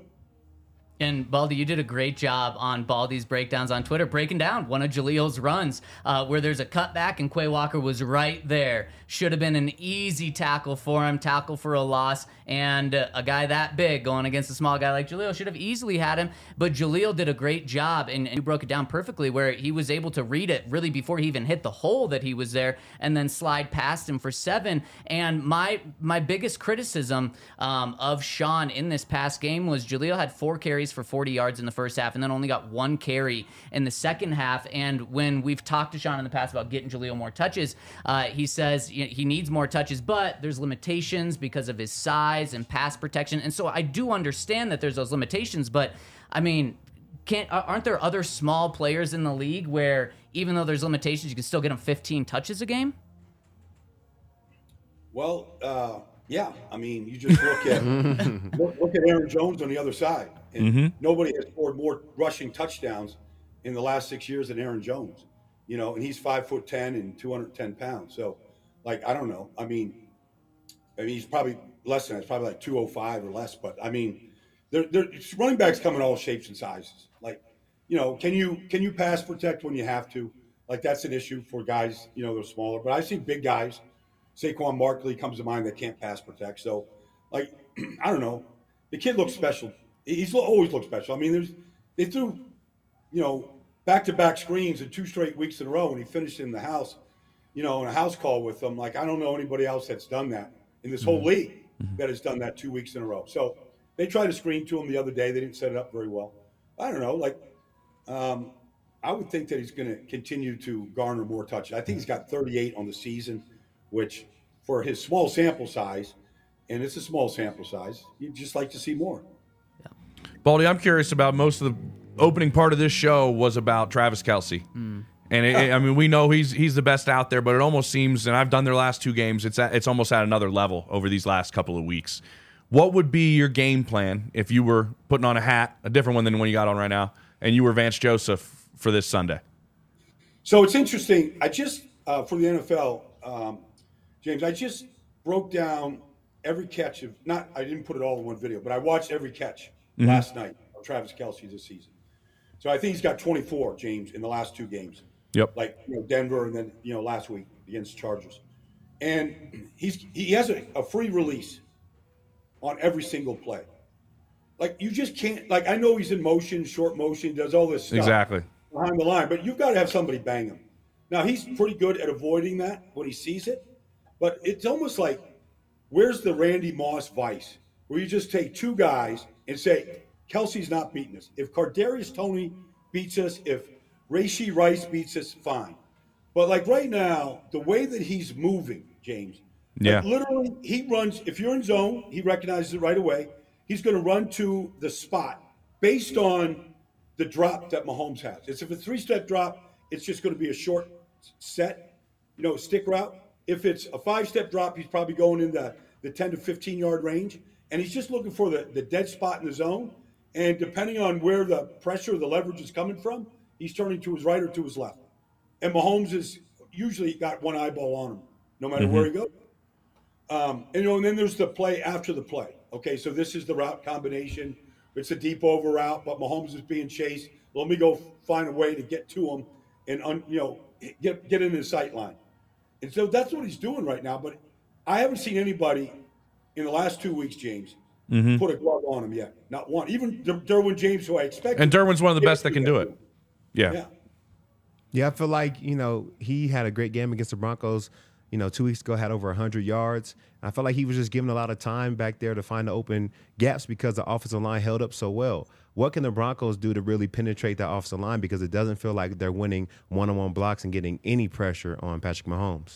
And Baldy, you did a great job on Baldy's breakdowns on Twitter, breaking down one of Jaleel's runs where there's a cutback and Quay Walker was right there. Should have been an easy tackle for him, tackle for a loss. And a guy that big going against a small guy like Jaleel should have easily had him. But Jaleel did a great job, and you broke it down perfectly, where he was able to read it really before he even hit the hole that he was there and then slide past him for 7. And my biggest criticism of Sean in this past game was Jaleel had 4 carries for 40 yards in the first half and then only got 1 carry in the second half. And when we've talked to Sean in the past about getting Jaleel more touches, he says he needs more touches, but there's limitations because of his size and pass protection. And so I do understand that there's those limitations, but I mean, aren't there other small players in the league where even though there's limitations, you can still get them 15 touches a game? Well, yeah. I mean, you just look at look at Aaron Jones on the other side, and nobody has scored more rushing touchdowns in the last 6 years than Aaron Jones. And he's 5'10" and 210 pounds. So, like, I don't know. I mean, he's probably less than that. It's probably like 205 or less. But I mean, running backs come in all shapes and sizes. Like, can you pass protect when you have to? Like, that's an issue for guys. They're smaller. But I see big guys. Saquon Barkley comes to mind that can't pass protect. So, like, I don't know. The kid looks special. He's always looked special. I mean, they threw, back-to-back screens in 2 straight weeks in a row when he finished in the house, in a house call with them. Like, I don't know anybody else that's done that in this whole league. that has done that 2 weeks in a row. So they tried to screen to him the other day. They didn't set it up very well. I don't know. I would think that he's going to continue to garner more touches. I think he's got 38 on the season, which for his small sample size, and it's a small sample size, you'd just like to see more. Baldy, I'm curious about most of the opening part of this show was about Travis Kelce. And we know he's the best out there, but it almost seems, and I've done their last 2 games, it's almost at another level over these last couple of weeks. What would be your game plan if you were putting on a hat, a different one than the one you got on right now, and you were Vance Joseph for this Sunday? So it's interesting. I just, for the NFL, James, I just broke down every catch of, I didn't put it all in one video, but I watched every catch last night of Travis Kelce this season. So I think he's got 24, James, in the last 2 games. Yep. Like, Denver and then, last week against the Chargers. And he has a free release on every single play. Like, you just can't, I know he's in motion, short motion, does all this stuff. Exactly. Behind the line, but you've got to have somebody bang him. Now, he's pretty good at avoiding that when he sees it, but it's almost like, where's the Randy Moss vice, where you just take 2 guys and say, Kelce's not beating us. If Kadarius Toney beats us, if Rashee Rice beats us, fine. But right now, the way that he's moving, James, literally he runs, if you're in zone, he recognizes it right away. He's going to run to the spot based on the drop that Mahomes has. If it's a 3-step drop, it's just going to be a short set, stick route. If it's a 5-step drop, he's probably going in the 10 to 15-yard range. And he's just looking for the dead spot in the zone. And depending on where the pressure, the leverage is coming from, he's turning to his right or to his left. And Mahomes has usually got one eyeball on him, no matter where he goes. And then there's the play after the play. Okay, so this is the route combination. It's a deep over route, but Mahomes is being chased. Let me go find a way to get to him and, get into the sight line. And so that's what he's doing right now. But I haven't seen anybody in the last 2 weeks, James, put a glove on him yet. Not one. Even Derwin James, who I expect. And Derwin's one of the best that can do it. Yeah. Yeah, I feel like, he had a great game against the Broncos. 2 weeks ago, had over 100 yards. I felt like he was just given a lot of time back there to find the open gaps because the offensive line held up so well. What can the Broncos do to really penetrate that offensive line? Because it doesn't feel like they're winning one-on-one blocks and getting any pressure on Patrick Mahomes.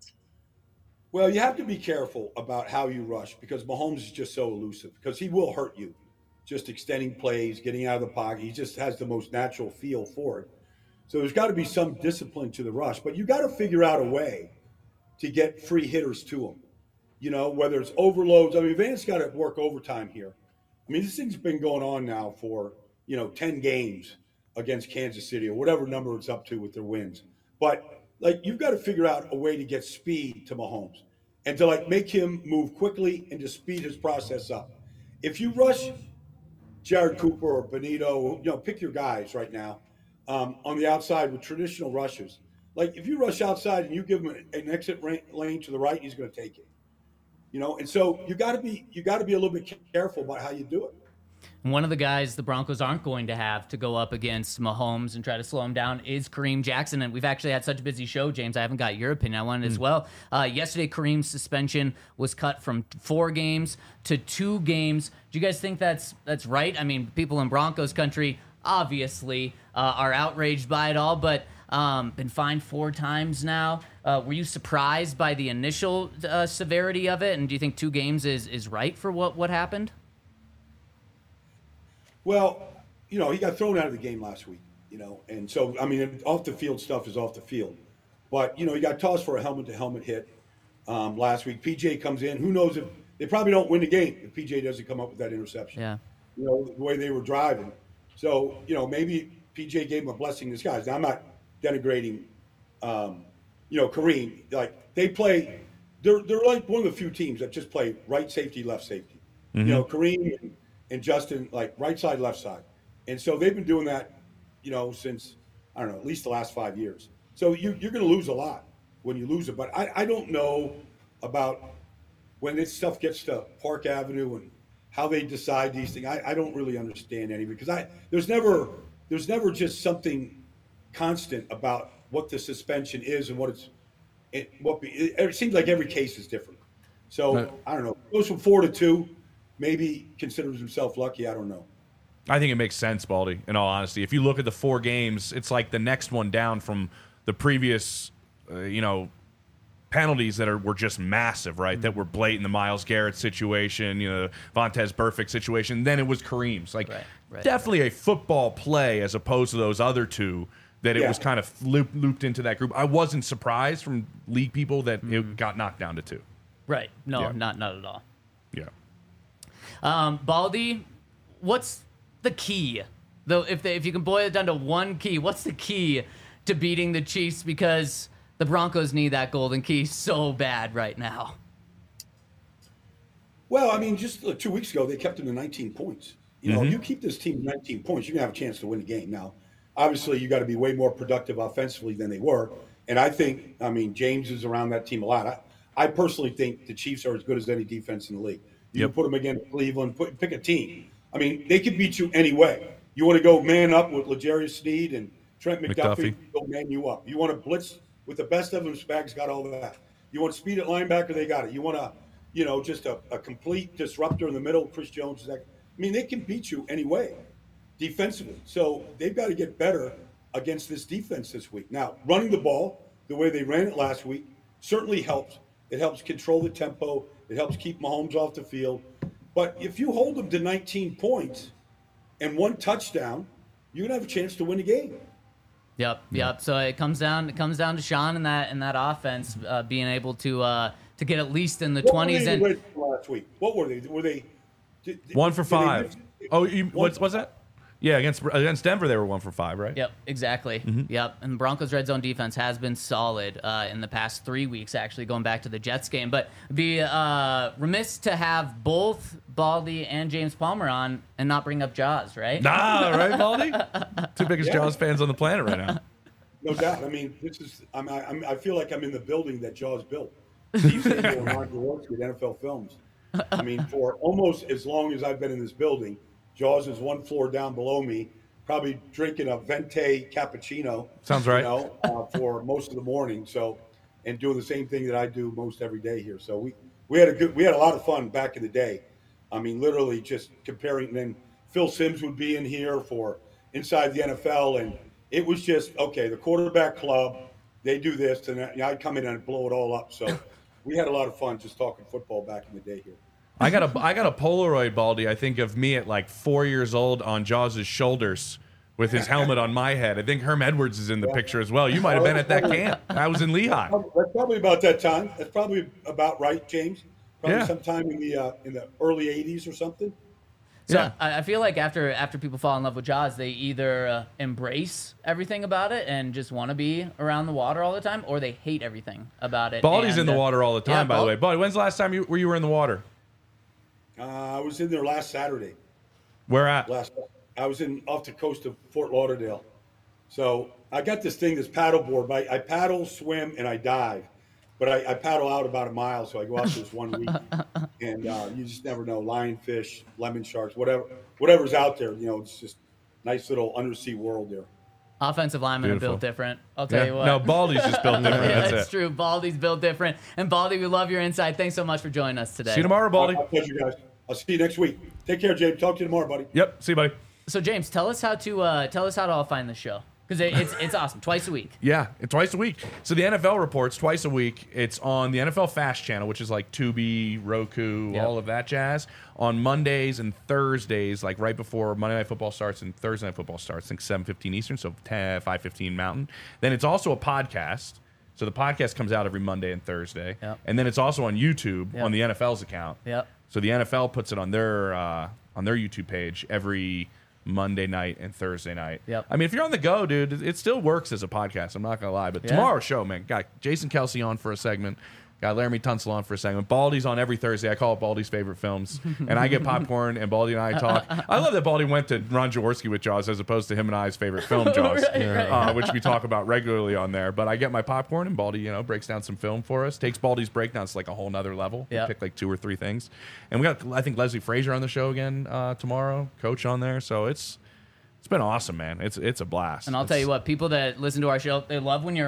Well, you have to be careful about how you rush because Mahomes is just so elusive because he will hurt you. Just extending plays, getting out of the pocket. He just has the most natural feel for it. So there's got to be some discipline to the rush. But you got to figure out a way to get free hitters to him. Whether it's overloads. I mean, Vance got to work overtime here. I mean, this thing's been going on now for, 10 games against Kansas City or whatever number it's up to with their wins. But, you've got to figure out a way to get speed to Mahomes and to, make him move quickly and to speed his process up. If you rush Jared Cooper or Benito, pick your guys right now on the outside with traditional rushes. If you rush outside and you give him an exit lane to the right, he's going to take it. And so you got to be a little bit careful about how you do it. One of the guys the Broncos aren't going to have to go up against Mahomes and try to slow him down is Kareem Jackson. And we've actually had such a busy show, James. I haven't got your opinion. I wanted as well. Yesterday, Kareem's suspension was cut from 4 games to 2 games. Do you guys think that's right? I mean, people in Broncos country obviously are outraged by it all, but been fined 4 times now. Were you surprised by the initial severity of it? And do you think 2 games is right for what happened? Well, he got thrown out of the game last week, and so, I mean, off the field stuff is off the field. But, he got tossed for a helmet-to-helmet hit last week. PJ comes in. Who knows if they probably don't win the game if PJ doesn't come up with that interception. Yeah. The way they were driving. So, maybe PJ gave him a blessing in disguise. Now, I'm not denigrating, Kareem. They play, they're like one of the few teams that just play right safety, left safety. Kareem and Justin, right side, left side. And so they've been doing that, since, I don't know, at least the last 5 years. So you're going to lose a lot when you lose it. But I don't know about when this stuff gets to Park Avenue and how they decide these things. I don't really understand any because there's never just something constant about what the suspension is and it seems like every case is different. So I don't know. Goes from 4-2. Maybe considers himself lucky. I don't know. I think it makes sense, Baldy, in all honesty. If you look at the 4 games, it's like the next one down from the previous, penalties that were just massive, right? That were blatant. The Myles Garrett situation, Vontaze Burfict situation. Then it was Kareem's. Definitely a football play as opposed to those other 2 that it was kind of looped into that group. I wasn't surprised from league people that it got knocked down to 2. Right. No, not at all. Yeah. Baldy, what's the key? Though, if you can boil it down to one key, what's the key to beating the Chiefs? Because the Broncos need that golden key so bad right now. Well, I mean, just 2 weeks ago, they kept them to 19 points. You keep this team to 19 points, you're going to have a chance to win the game. Now, obviously, you got to be way more productive offensively than they were. And I think, James is around that team a lot. I personally think the Chiefs are as good as any defense in the league. You can put them against Cleveland, pick a team. They could beat you anyway. You want to go man up with L'Jarius Sneed and Trent McDuffie, they'll man you up. You want to blitz with the best of them, Spags got all of that. You want speed at linebacker, they got it. You want just a complete disruptor in the middle, Chris Jones. They can beat you anyway, defensively. So they've got to get better against this defense this week. Now, running the ball the way they ran it last week certainly helps. It helps control the tempo. It helps keep Mahomes off the field. But if you hold them to 19 points and 1 touchdown, you're going to have a chance to win the game. Yep. So it comes down to Sean and that offense being able to get at least in the 20s. And last week, what were they? Were they 1 for 5? What's that? Yeah, against Denver, they were 1 for 5, right? Yep, exactly. Mm-hmm. Yep, and the Broncos' red zone defense has been solid in the past 3 weeks, actually, going back to the Jets game. But be remiss to have both Baldy and James Palmer on and not bring up Jaws, right? Nah, right, Baldy? 2 biggest Jaws fans on the planet right now. No doubt. This is. I feel like I'm in the building that Jaws built. Steve Samuel and Ron Jaworski at NFL Films. For almost as long as I've been in this building, Jaws is 1 floor down below me, probably drinking a Venti cappuccino. Sounds right. For most of the morning. So, and doing the same thing that I do most every day here. So we had a lot of fun back in the day. Literally just comparing. And then Phil Simms would be in here for Inside the NFL, and it was just okay. The quarterback club, they do this, and I'd come in and blow it all up. So we had a lot of fun just talking football back in the day here. I got a Polaroid, Baldy, I think, of me at like 4 years old on Jaws' shoulders with his helmet on my head. I think Herm Edwards is in the picture as well. You might have been at that camp. I was in Lehigh. That's probably about that time. That's probably about right, James. Probably sometime in the early 80s or something. So I feel like after people fall in love with Jaws, they either embrace everything about it and just want to be around the water all the time, or they hate everything about it. Baldy's in the water all the time, by the way. Baldy, when's the last time you were in the water? I was in there last Saturday. Where at? I was off the coast of Fort Lauderdale. So I got this thing, this paddle board. I paddle, swim, and I dive. But I paddle out about a mile, so I go out this 1 week. And you just never know. Lionfish, lemon sharks, whatever's out there. It's just nice little undersea world there. Offensive linemen are built different. I'll tell you what. No, Baldy's just built different. That's true. Baldy's built different. And Baldy, we love your insight. Thanks so much for joining us today. See you tomorrow, Baldy. My pleasure, guys. I'll see you next week. Take care, James. Talk to you tomorrow, buddy. Yep. See you, buddy. So, James, tell us how to all find the show. Because it's awesome. Twice a week. Yeah, twice a week. So the NFL reports twice a week. It's on the NFL Fast channel, which is like Tubi, Roku, all of that jazz. On Mondays and Thursdays, like right before Monday Night Football starts and Thursday Night Football starts, I think 7:15 Eastern, so 5:15 Mountain. Then it's also a podcast. So the podcast comes out every Monday and Thursday. Yep. And then it's also on YouTube on the NFL's account. Yep. So the NFL puts it on their YouTube page every Monday night and Thursday night. Yep. If you're on the go, dude, it still works as a podcast. I'm not going to lie. But tomorrow's show, man, got Jason Kelsey on for a segment. Got Laramie Tunsil on for a segment. Baldy's on every Thursday. I call it Baldy's favorite films. And I get popcorn, and Baldy and I talk. I love that Baldy went to Ron Jaworski with Jaws as opposed to him and I's favorite film, Jaws, which we talk about regularly on there. But I get my popcorn, and Baldy, breaks down some film for us. Takes Baldy's breakdowns to like a whole nother level. We pick like 2 or 3 things. And we got, I think, Leslie Frazier on the show again tomorrow, coach on there. So it's been awesome, man. It's a blast. And I'll tell you what, people that listen to our show, they love when you're on.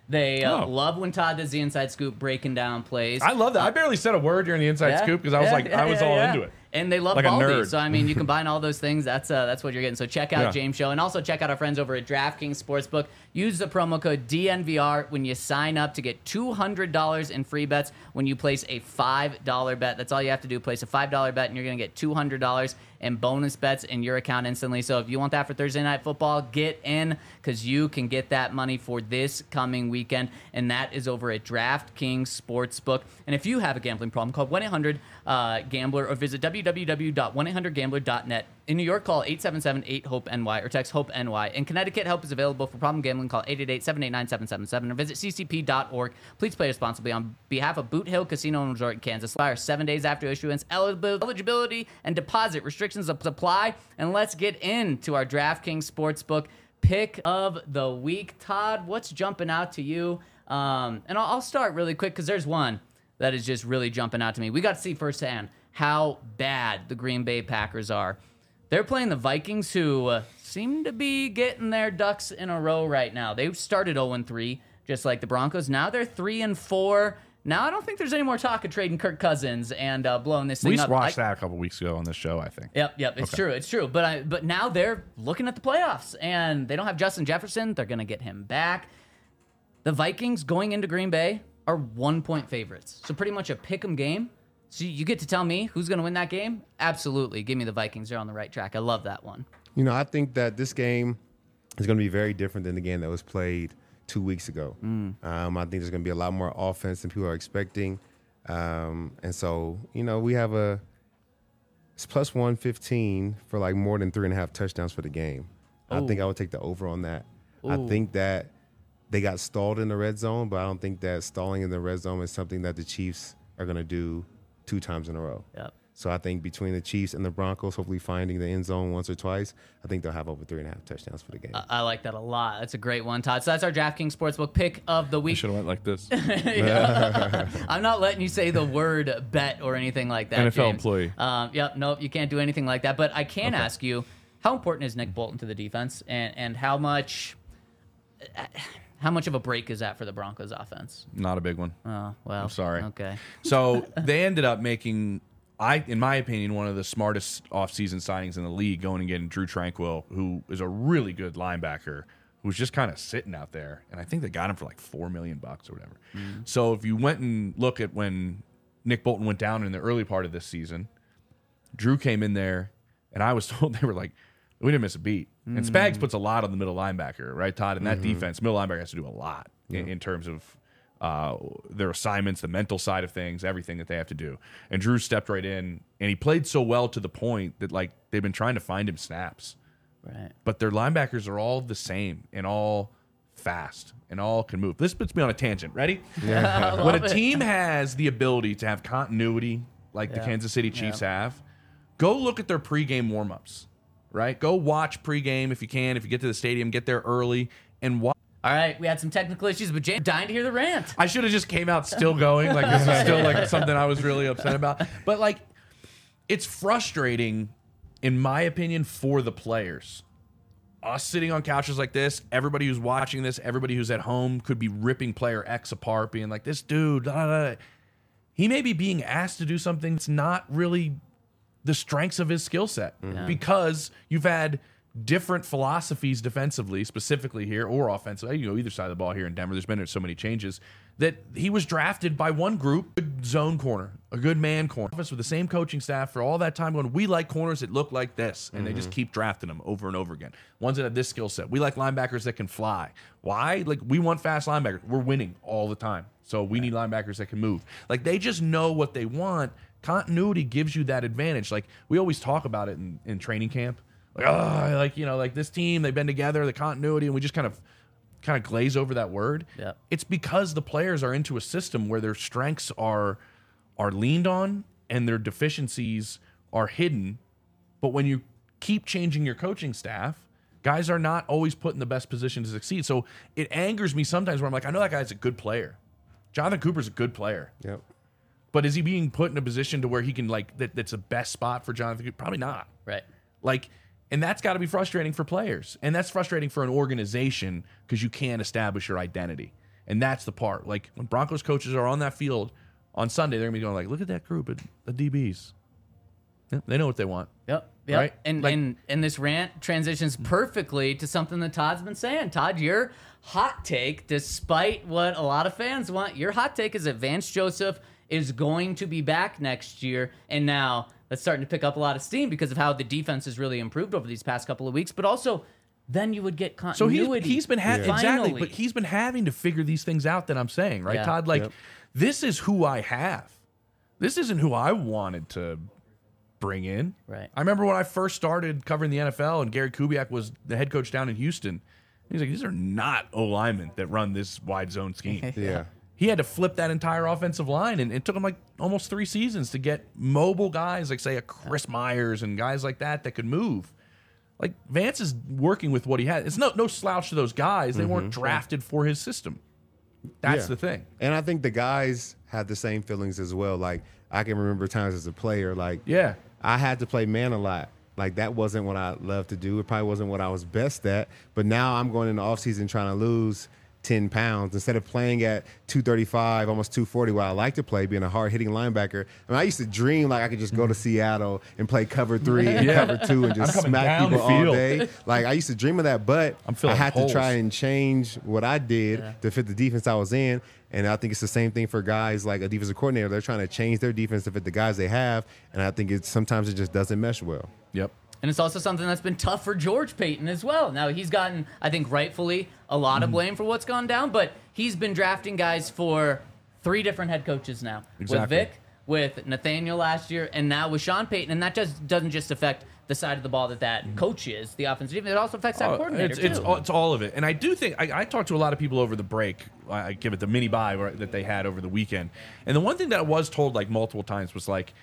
They love when Todd does the inside scoop breaking down plays. I love that. I barely said a word during the inside scoop because I was I was all into it. And they love like Baldy. So, I mean, you combine all those things. That's what you're getting. So check out James Show. And also check out our friends over at DraftKings Sportsbook. Use the promo code DNVR when you sign up to get $200 in free bets when you place a $5 bet. That's all you have to do. Place a $5 bet, and you're going to get $200 in bonus bets in your account instantly. So if you want that for Thursday Night Football, get in because you can get that money for this coming weekend. And that is over at DraftKings Sportsbook. And if you have a gambling problem, call 1-800-GAMBLER or visit www.1800gambler.net. In New York, call 877-8-HOPE-NY or text HOPE-NY. In Connecticut, help is available for problem gambling. Call 888-789-777 or visit ccp.org. Please play responsibly on behalf of Boot Hill Casino and Resort in Kansas. Expire 7 days after issuance. Eligibility and deposit restrictions apply. And let's get into our DraftKings Sportsbook pick of the week. Todd, what's jumping out to you? And I'll start really quick because there's one that is just really jumping out to me. We got to see firsthand how bad the Green Bay Packers are. They're playing the Vikings, who seem to be getting their ducks in a row right now. They started 0-3, just like the Broncos. Now they're 3-4. Now I don't think there's any more talk of trading Kirk Cousins and blowing this thing up. We watched that a couple weeks ago on this show, I think. Yep, it's true. But now they're looking at the playoffs, and they don't have Justin Jefferson. They're going to get him back. The Vikings going into Green Bay are 1-point favorites. So pretty much a pick-em game. So you get to tell me who's going to win that game? Absolutely. Give me the Vikings. They're on the right track. I love that one. You know, I think that this game is going to be very different than the game that was played 2 weeks ago. I think there's going to be a lot more offense than people are expecting. And so, you know, we have it's plus 115 for like more than 3.5 touchdowns for the game. I think I would take the over on that. I think that they got stalled in the red zone, but I don't think that stalling in the red zone is something that the Chiefs are going to do 2 times in a row. Yep. So I think between the Chiefs and the Broncos, hopefully finding the end zone once or twice, I think they'll have over 3.5 touchdowns for the game. I like that a lot. That's a great one, Todd. So that's our DraftKings Sportsbook pick of the week. I should have went like this. I'm not letting you say the word bet or anything like that, NFL James. employee. Nope, you can't do anything like that. But I can ask you, how important is Nick Bolton to the defense, and how much of a break is that for the Broncos offense? Not a big one. Oh, well. I'm sorry. Okay. So they ended up making, in my opinion, one of the smartest offseason signings in the league, going and getting Drew Tranquill, who is a really good linebacker, who's just kind of sitting out there. And I think they got him for like $4 million or whatever. So if you went and look at when Nick Bolton went down in the early part of this season, Drew came in there, and I was told they were like, we didn't miss a beat. And Spags puts a lot on the middle linebacker, right, Todd? In that defense, middle linebacker has to do a lot in terms of their assignments, the mental side of things, everything that they have to do. And Drew stepped right in, and he played so well to the point that, like, they've been trying to find him snaps. Right. But their linebackers are all the same and all fast and all can move. This puts me on a tangent. Ready? Yeah. When a team has the ability to have continuity like the Kansas City Chiefs have, go look at their pregame warmups. Right? Go watch pregame if you can. If you get to the stadium, get there early and watch. All right, we had some technical issues, but James dying to hear the rant. I should have just came out still going. Like, this is still like something I was really upset about. But like, it's frustrating, in my opinion, for the players. Us sitting on couches like this, everybody who's watching this, everybody who's at home could be ripping player X apart, being like, this dude, he may be being asked to do something that's not really the strengths of his skill set, because you've had different philosophies defensively, specifically here, or offensively, either side of the ball here in Denver. There's been so many changes that he was drafted by one group, a good zone corner, a good man corner, with the same coaching staff for all that time going, we like corners that look like this, and they just keep drafting them over and over again. Ones that have this skill set. We like linebackers that can fly. Why? Like, we want fast linebackers. We're winning all the time, so we need linebackers that can move. Like, they just know what they want. Continuity gives you that advantage. Like, we always talk about it in training camp. Like, this team, they've been together, the continuity, and we just kind of glaze over that word. Yep. It's because the players are into a system where their strengths are leaned on and their deficiencies are hidden. But when you keep changing your coaching staff, guys are not always put in the best position to succeed. So it angers me sometimes where I'm like, I know that guy's a good player. Jonathan Cooper's a good player. Yep. But is he being put in a position to where he can, like, that's the best spot for Jonathan Cooper? Probably not. Right. Like, and that's got to be frustrating for players. And that's frustrating for an organization because you can't establish your identity. And that's the part. Like, when Broncos coaches are on that field on Sunday, they're going to be going like, look at that group of DBs. Yeah, they know what they want. Yep. Right? And, Like- and this rant transitions perfectly to something that Todd's been saying. Todd, your hot take, despite what a lot of fans want, your hot take is that Vance Joseph is going to be back next year. And now that's starting to pick up a lot of steam because of how the defense has really improved over these past couple of weeks. But also, then you would get So continuity. he's been exactly, Finally. but he's been having to figure these things out that I'm saying, right, Yeah. Todd? Like, this is who I have. This isn't who I wanted to bring in. Right. I remember when I first started covering the NFL and Gary Kubiak was the head coach down in Houston. He's like, these are not O-linemen that run this wide zone scheme. Yeah. He had to flip that entire offensive line, and it took him like almost 3 seasons to get mobile guys like, say, a Chris Myers and guys like that could move. Like, Vance is working with what he had. It's no slouch to those guys. They weren't drafted for his system. That's Yeah. the thing. And I think the guys have the same feelings as well. Like, I can remember times as a player, like, Yeah. I had to play man a lot. Like, that wasn't what I loved to do. It probably wasn't what I was best at. But now I'm going in the offseason trying to lose 10 pounds instead of playing at 235, almost 240, where I like to play, being a hard-hitting linebacker. I mean, I used to dream like I could just go to Seattle and play cover 3 and cover 2 and just I'm coming smack down people the all field. day. Like, I used to dream of that, but I'm I filling had holes. to try and change what I did to fit the defense I was in. And I think it's the same thing for guys like a defensive coordinator. They're trying to change their defense to fit the guys they have, and I think sometimes it just doesn't mesh well. Yep. And it's also something that's been tough for George Payton as well. Now, he's gotten, I think, rightfully a lot of blame for what's gone down, but he's been drafting guys for 3 different head coaches now. Exactly. With Vic, with Nathaniel last year, and now with Sean Payton. And that just doesn't just affect the side of the ball that coach is, the offensive defense. It also affects that coordinator, It's all of it. And I do think, I talked to a lot of people over the break. I give it the mini bye that they had over the weekend. And the one thing that I was told like multiple times was like,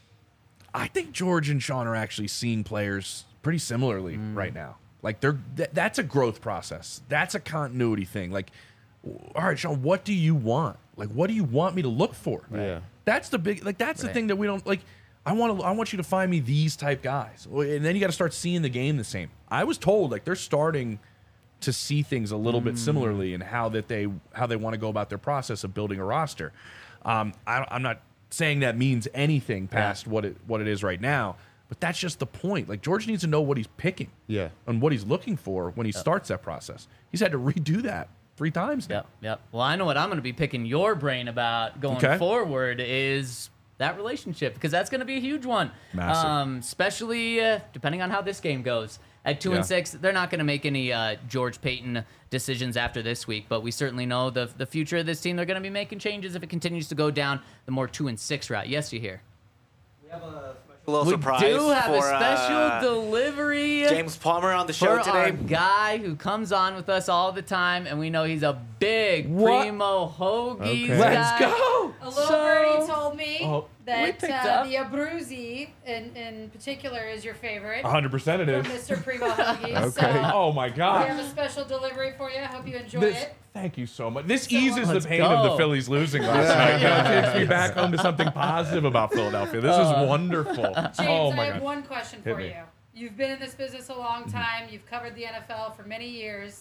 I think George and Sean are actually seeing players pretty similarly right now. Like that's a growth process. That's a continuity thing. Like, all right, Sean, what do you want? Like, what do you want me to look for? Yeah. That's the big, like, that's the thing that we don't like. I want you to find me these type guys. And then you got to start seeing the game the same. I was told like they're starting to see things a little bit similarly in how they want to go about their process of building a roster. I'm not saying that means anything past what it is right now, but that's just the point. Like, George needs to know what he's picking, and what he's looking for when he starts that process. He's had to redo that 3 times now. Yep. Well, I know what I'm going to be picking your brain about going forward is that relationship, because that's going to be a huge one. Massive. Especially depending on how this game goes. At 2-6, they're not going to make any George Payton decisions after this week, but we certainly know the future of this team. They're going to be making changes if it continues to go down the more 2-6 route. Yes, you hear. We have a little We surprise do have for a special delivery James Palmer on the show for our today. guy who comes on with us all the time, and we know he's a big What? Primo Hoagies Okay. guy. Let's go. A little birdie told me we that picked up. the Abruzzi in particular is your favorite 100% it from is. Mr. Primo Hoagies. Okay. So Oh my we God. have a special delivery for you. I hope you enjoy This, it. thank you so much. This eases the Let's pain of the go. Phillies losing last night. It takes me back home to something positive about Philadelphia. This is wonderful. James, Oh I my have God. one question Hit for me. you. You've been in this business a long time. You've covered the NFL for many years.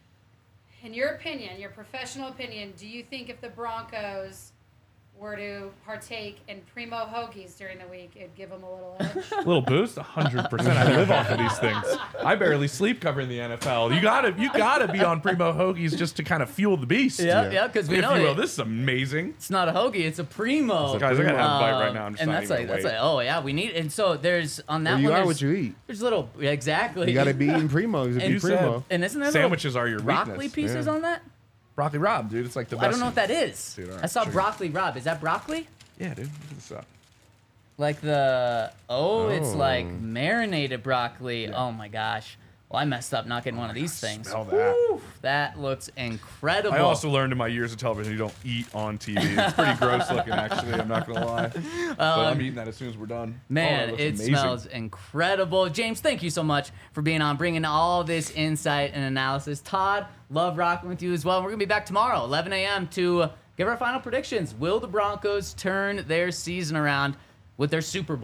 In your opinion, your professional opinion, do you think if the Broncos were to partake in Primo Hoagies during the week, it'd give them a little edge? Little boost, 100%. I live off of these things. I barely sleep covering the NFL. You gotta be on Primo Hoagies just to kind of fuel the beast. Yeah, because we If know you will. it. This is amazing. It's not a hoagie, it's a Primo. Guys, I gotta have a bite right now. I'm just and not that's even like, gonna wait. oh yeah, we need. And so there's on that Well, you one. are there's, what you eat. There's little exactly. You got to be eating primos to And be primo. said- And isn't there Sandwiches little are your broccoli weakness. pieces Yeah. on that? Broccoli Rob, dude. It's like the best. I don't know what that is. Dude, all right, I saw sure. broccoli Rob. Is that broccoli? Yeah, dude. Look this up. Like the it's like marinated broccoli. Oh my gosh. Well, I messed up not getting one of these things. Smell that. Woo, that looks incredible. I also learned in my years of television you don't eat on TV. It's pretty gross looking, actually. I'm not gonna lie. But I'm eating that as soon as we're done. Man, Oh, that it looks amazing. smells incredible. James, thank you so much for being on, bringing all this insight and analysis. Todd, love rocking with you as well. We're going to be back tomorrow, 11 a.m., to give our final predictions. Will the Broncos turn their season around with their Super Bowl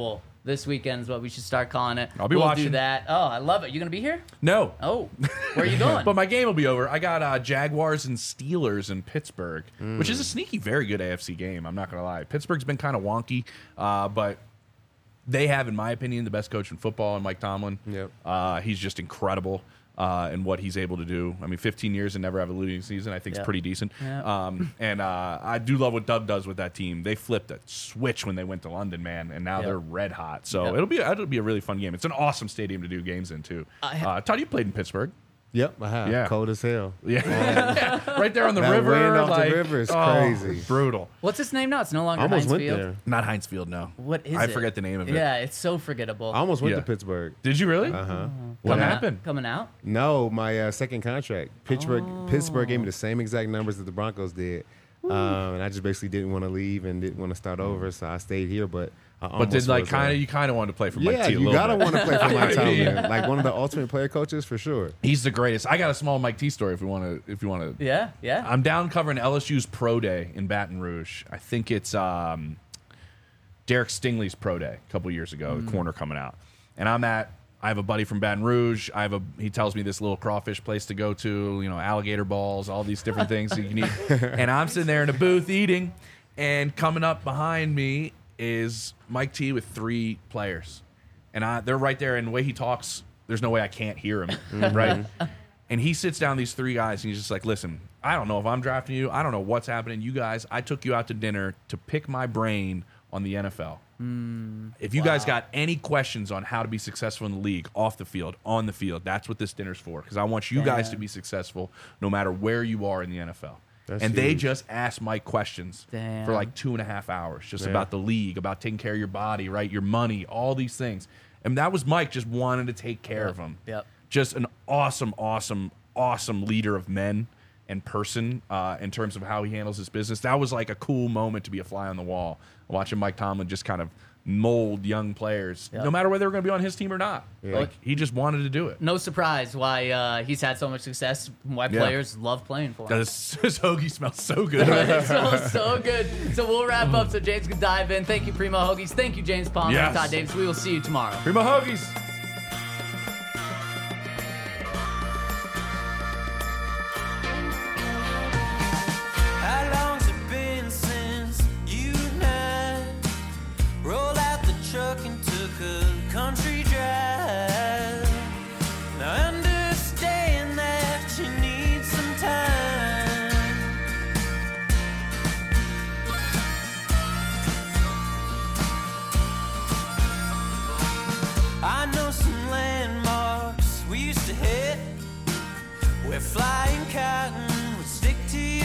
this weekend is what we should start calling it. I'll be we'll watching. do that. Oh, I love it. You gonna be here? No. Oh, where are you going? But my game will be over. I got Jaguars and Steelers in Pittsburgh, which is a sneaky, very good AFC game. I'm not going to lie. Pittsburgh's been kind of wonky, but they have, in my opinion, the best coach in football, in Mike Tomlin. Yep. He's just incredible in what he's able to do. I mean, 15 years and never have a losing season, I think is pretty decent. Yeah. And I do love what Doug does with that team. They flipped a switch when they went to London, man, and now they're red hot. So it'll be a really fun game. It's an awesome stadium to do games in, too. Todd, you played in Pittsburgh. Yep, I have. Yeah. Cold as hell. Yeah. Right there on the That river. wind off the river is crazy. Brutal. What's its name now? It's no longer I almost Heinz went Field. there. Not Heinz Field, no. What is it? I forget the name of it. Yeah, it's so forgettable. I almost went Yeah. to Pittsburgh. Did you really? Uh-huh. What Coming out- happened? Coming out? No, my second contract. Pittsburgh gave me the same exact numbers that the Broncos did. And I just basically didn't want to leave and didn't want to start over, so I stayed here. But I But did almost was, you kind of wanted to play for Mike yeah, T a you little gotta bit. want to play for Mike Tomlin, like one of the ultimate player coaches for sure. He's the greatest. I got a small Mike T story if you want to. Yeah, yeah. I'm down covering LSU's pro day in Baton Rouge. I think it's Derek Stingley's pro day a couple years ago. The corner coming out, and I have a buddy from Baton Rouge. He tells me this little crawfish place to go to, alligator balls, all these different things you can eat. And I'm sitting there in a booth eating, and coming up behind me is Mike T with 3 players. And they're right there, and the way he talks, there's no way I can't hear him, right? And he sits down these 3 guys, and he's just like, listen, I don't know if I'm drafting you. I don't know what's happening. You guys, I took you out to dinner to pick my brain on the NFL. If you guys got any questions on how to be successful in the league, off the field, on the field, that's what this dinner's for. Because I want you guys to be successful no matter where you are in the NFL. That's and they huge. just asked Mike questions for like 2.5 hours, just about the league, about taking care of your body, right, your money, all these things. And that was Mike just wanting to take care of them. Yep. Just an awesome, awesome, awesome leader of men and person in terms of how he handles his business. That was like a cool moment to be a fly on the wall, watching Mike Tomlin just kind of mold young players, no matter whether they were going to be on his team or not. Yeah. Like, he just wanted to do it. No surprise why he's had so much success, why players love playing for him. Because his hoagie smells so good. It smells so good. So we'll wrap up so James can dive in. Thank you, Primo Hoagies. Thank you, James Palmer and Yes. Todd Davis. We will see you tomorrow. Primo hoagies. How long's it been since you and I rolled out the truck and took a country drive? Now I understand that you need some time. I know some landmarks we used to hit where flying cotton would stick to your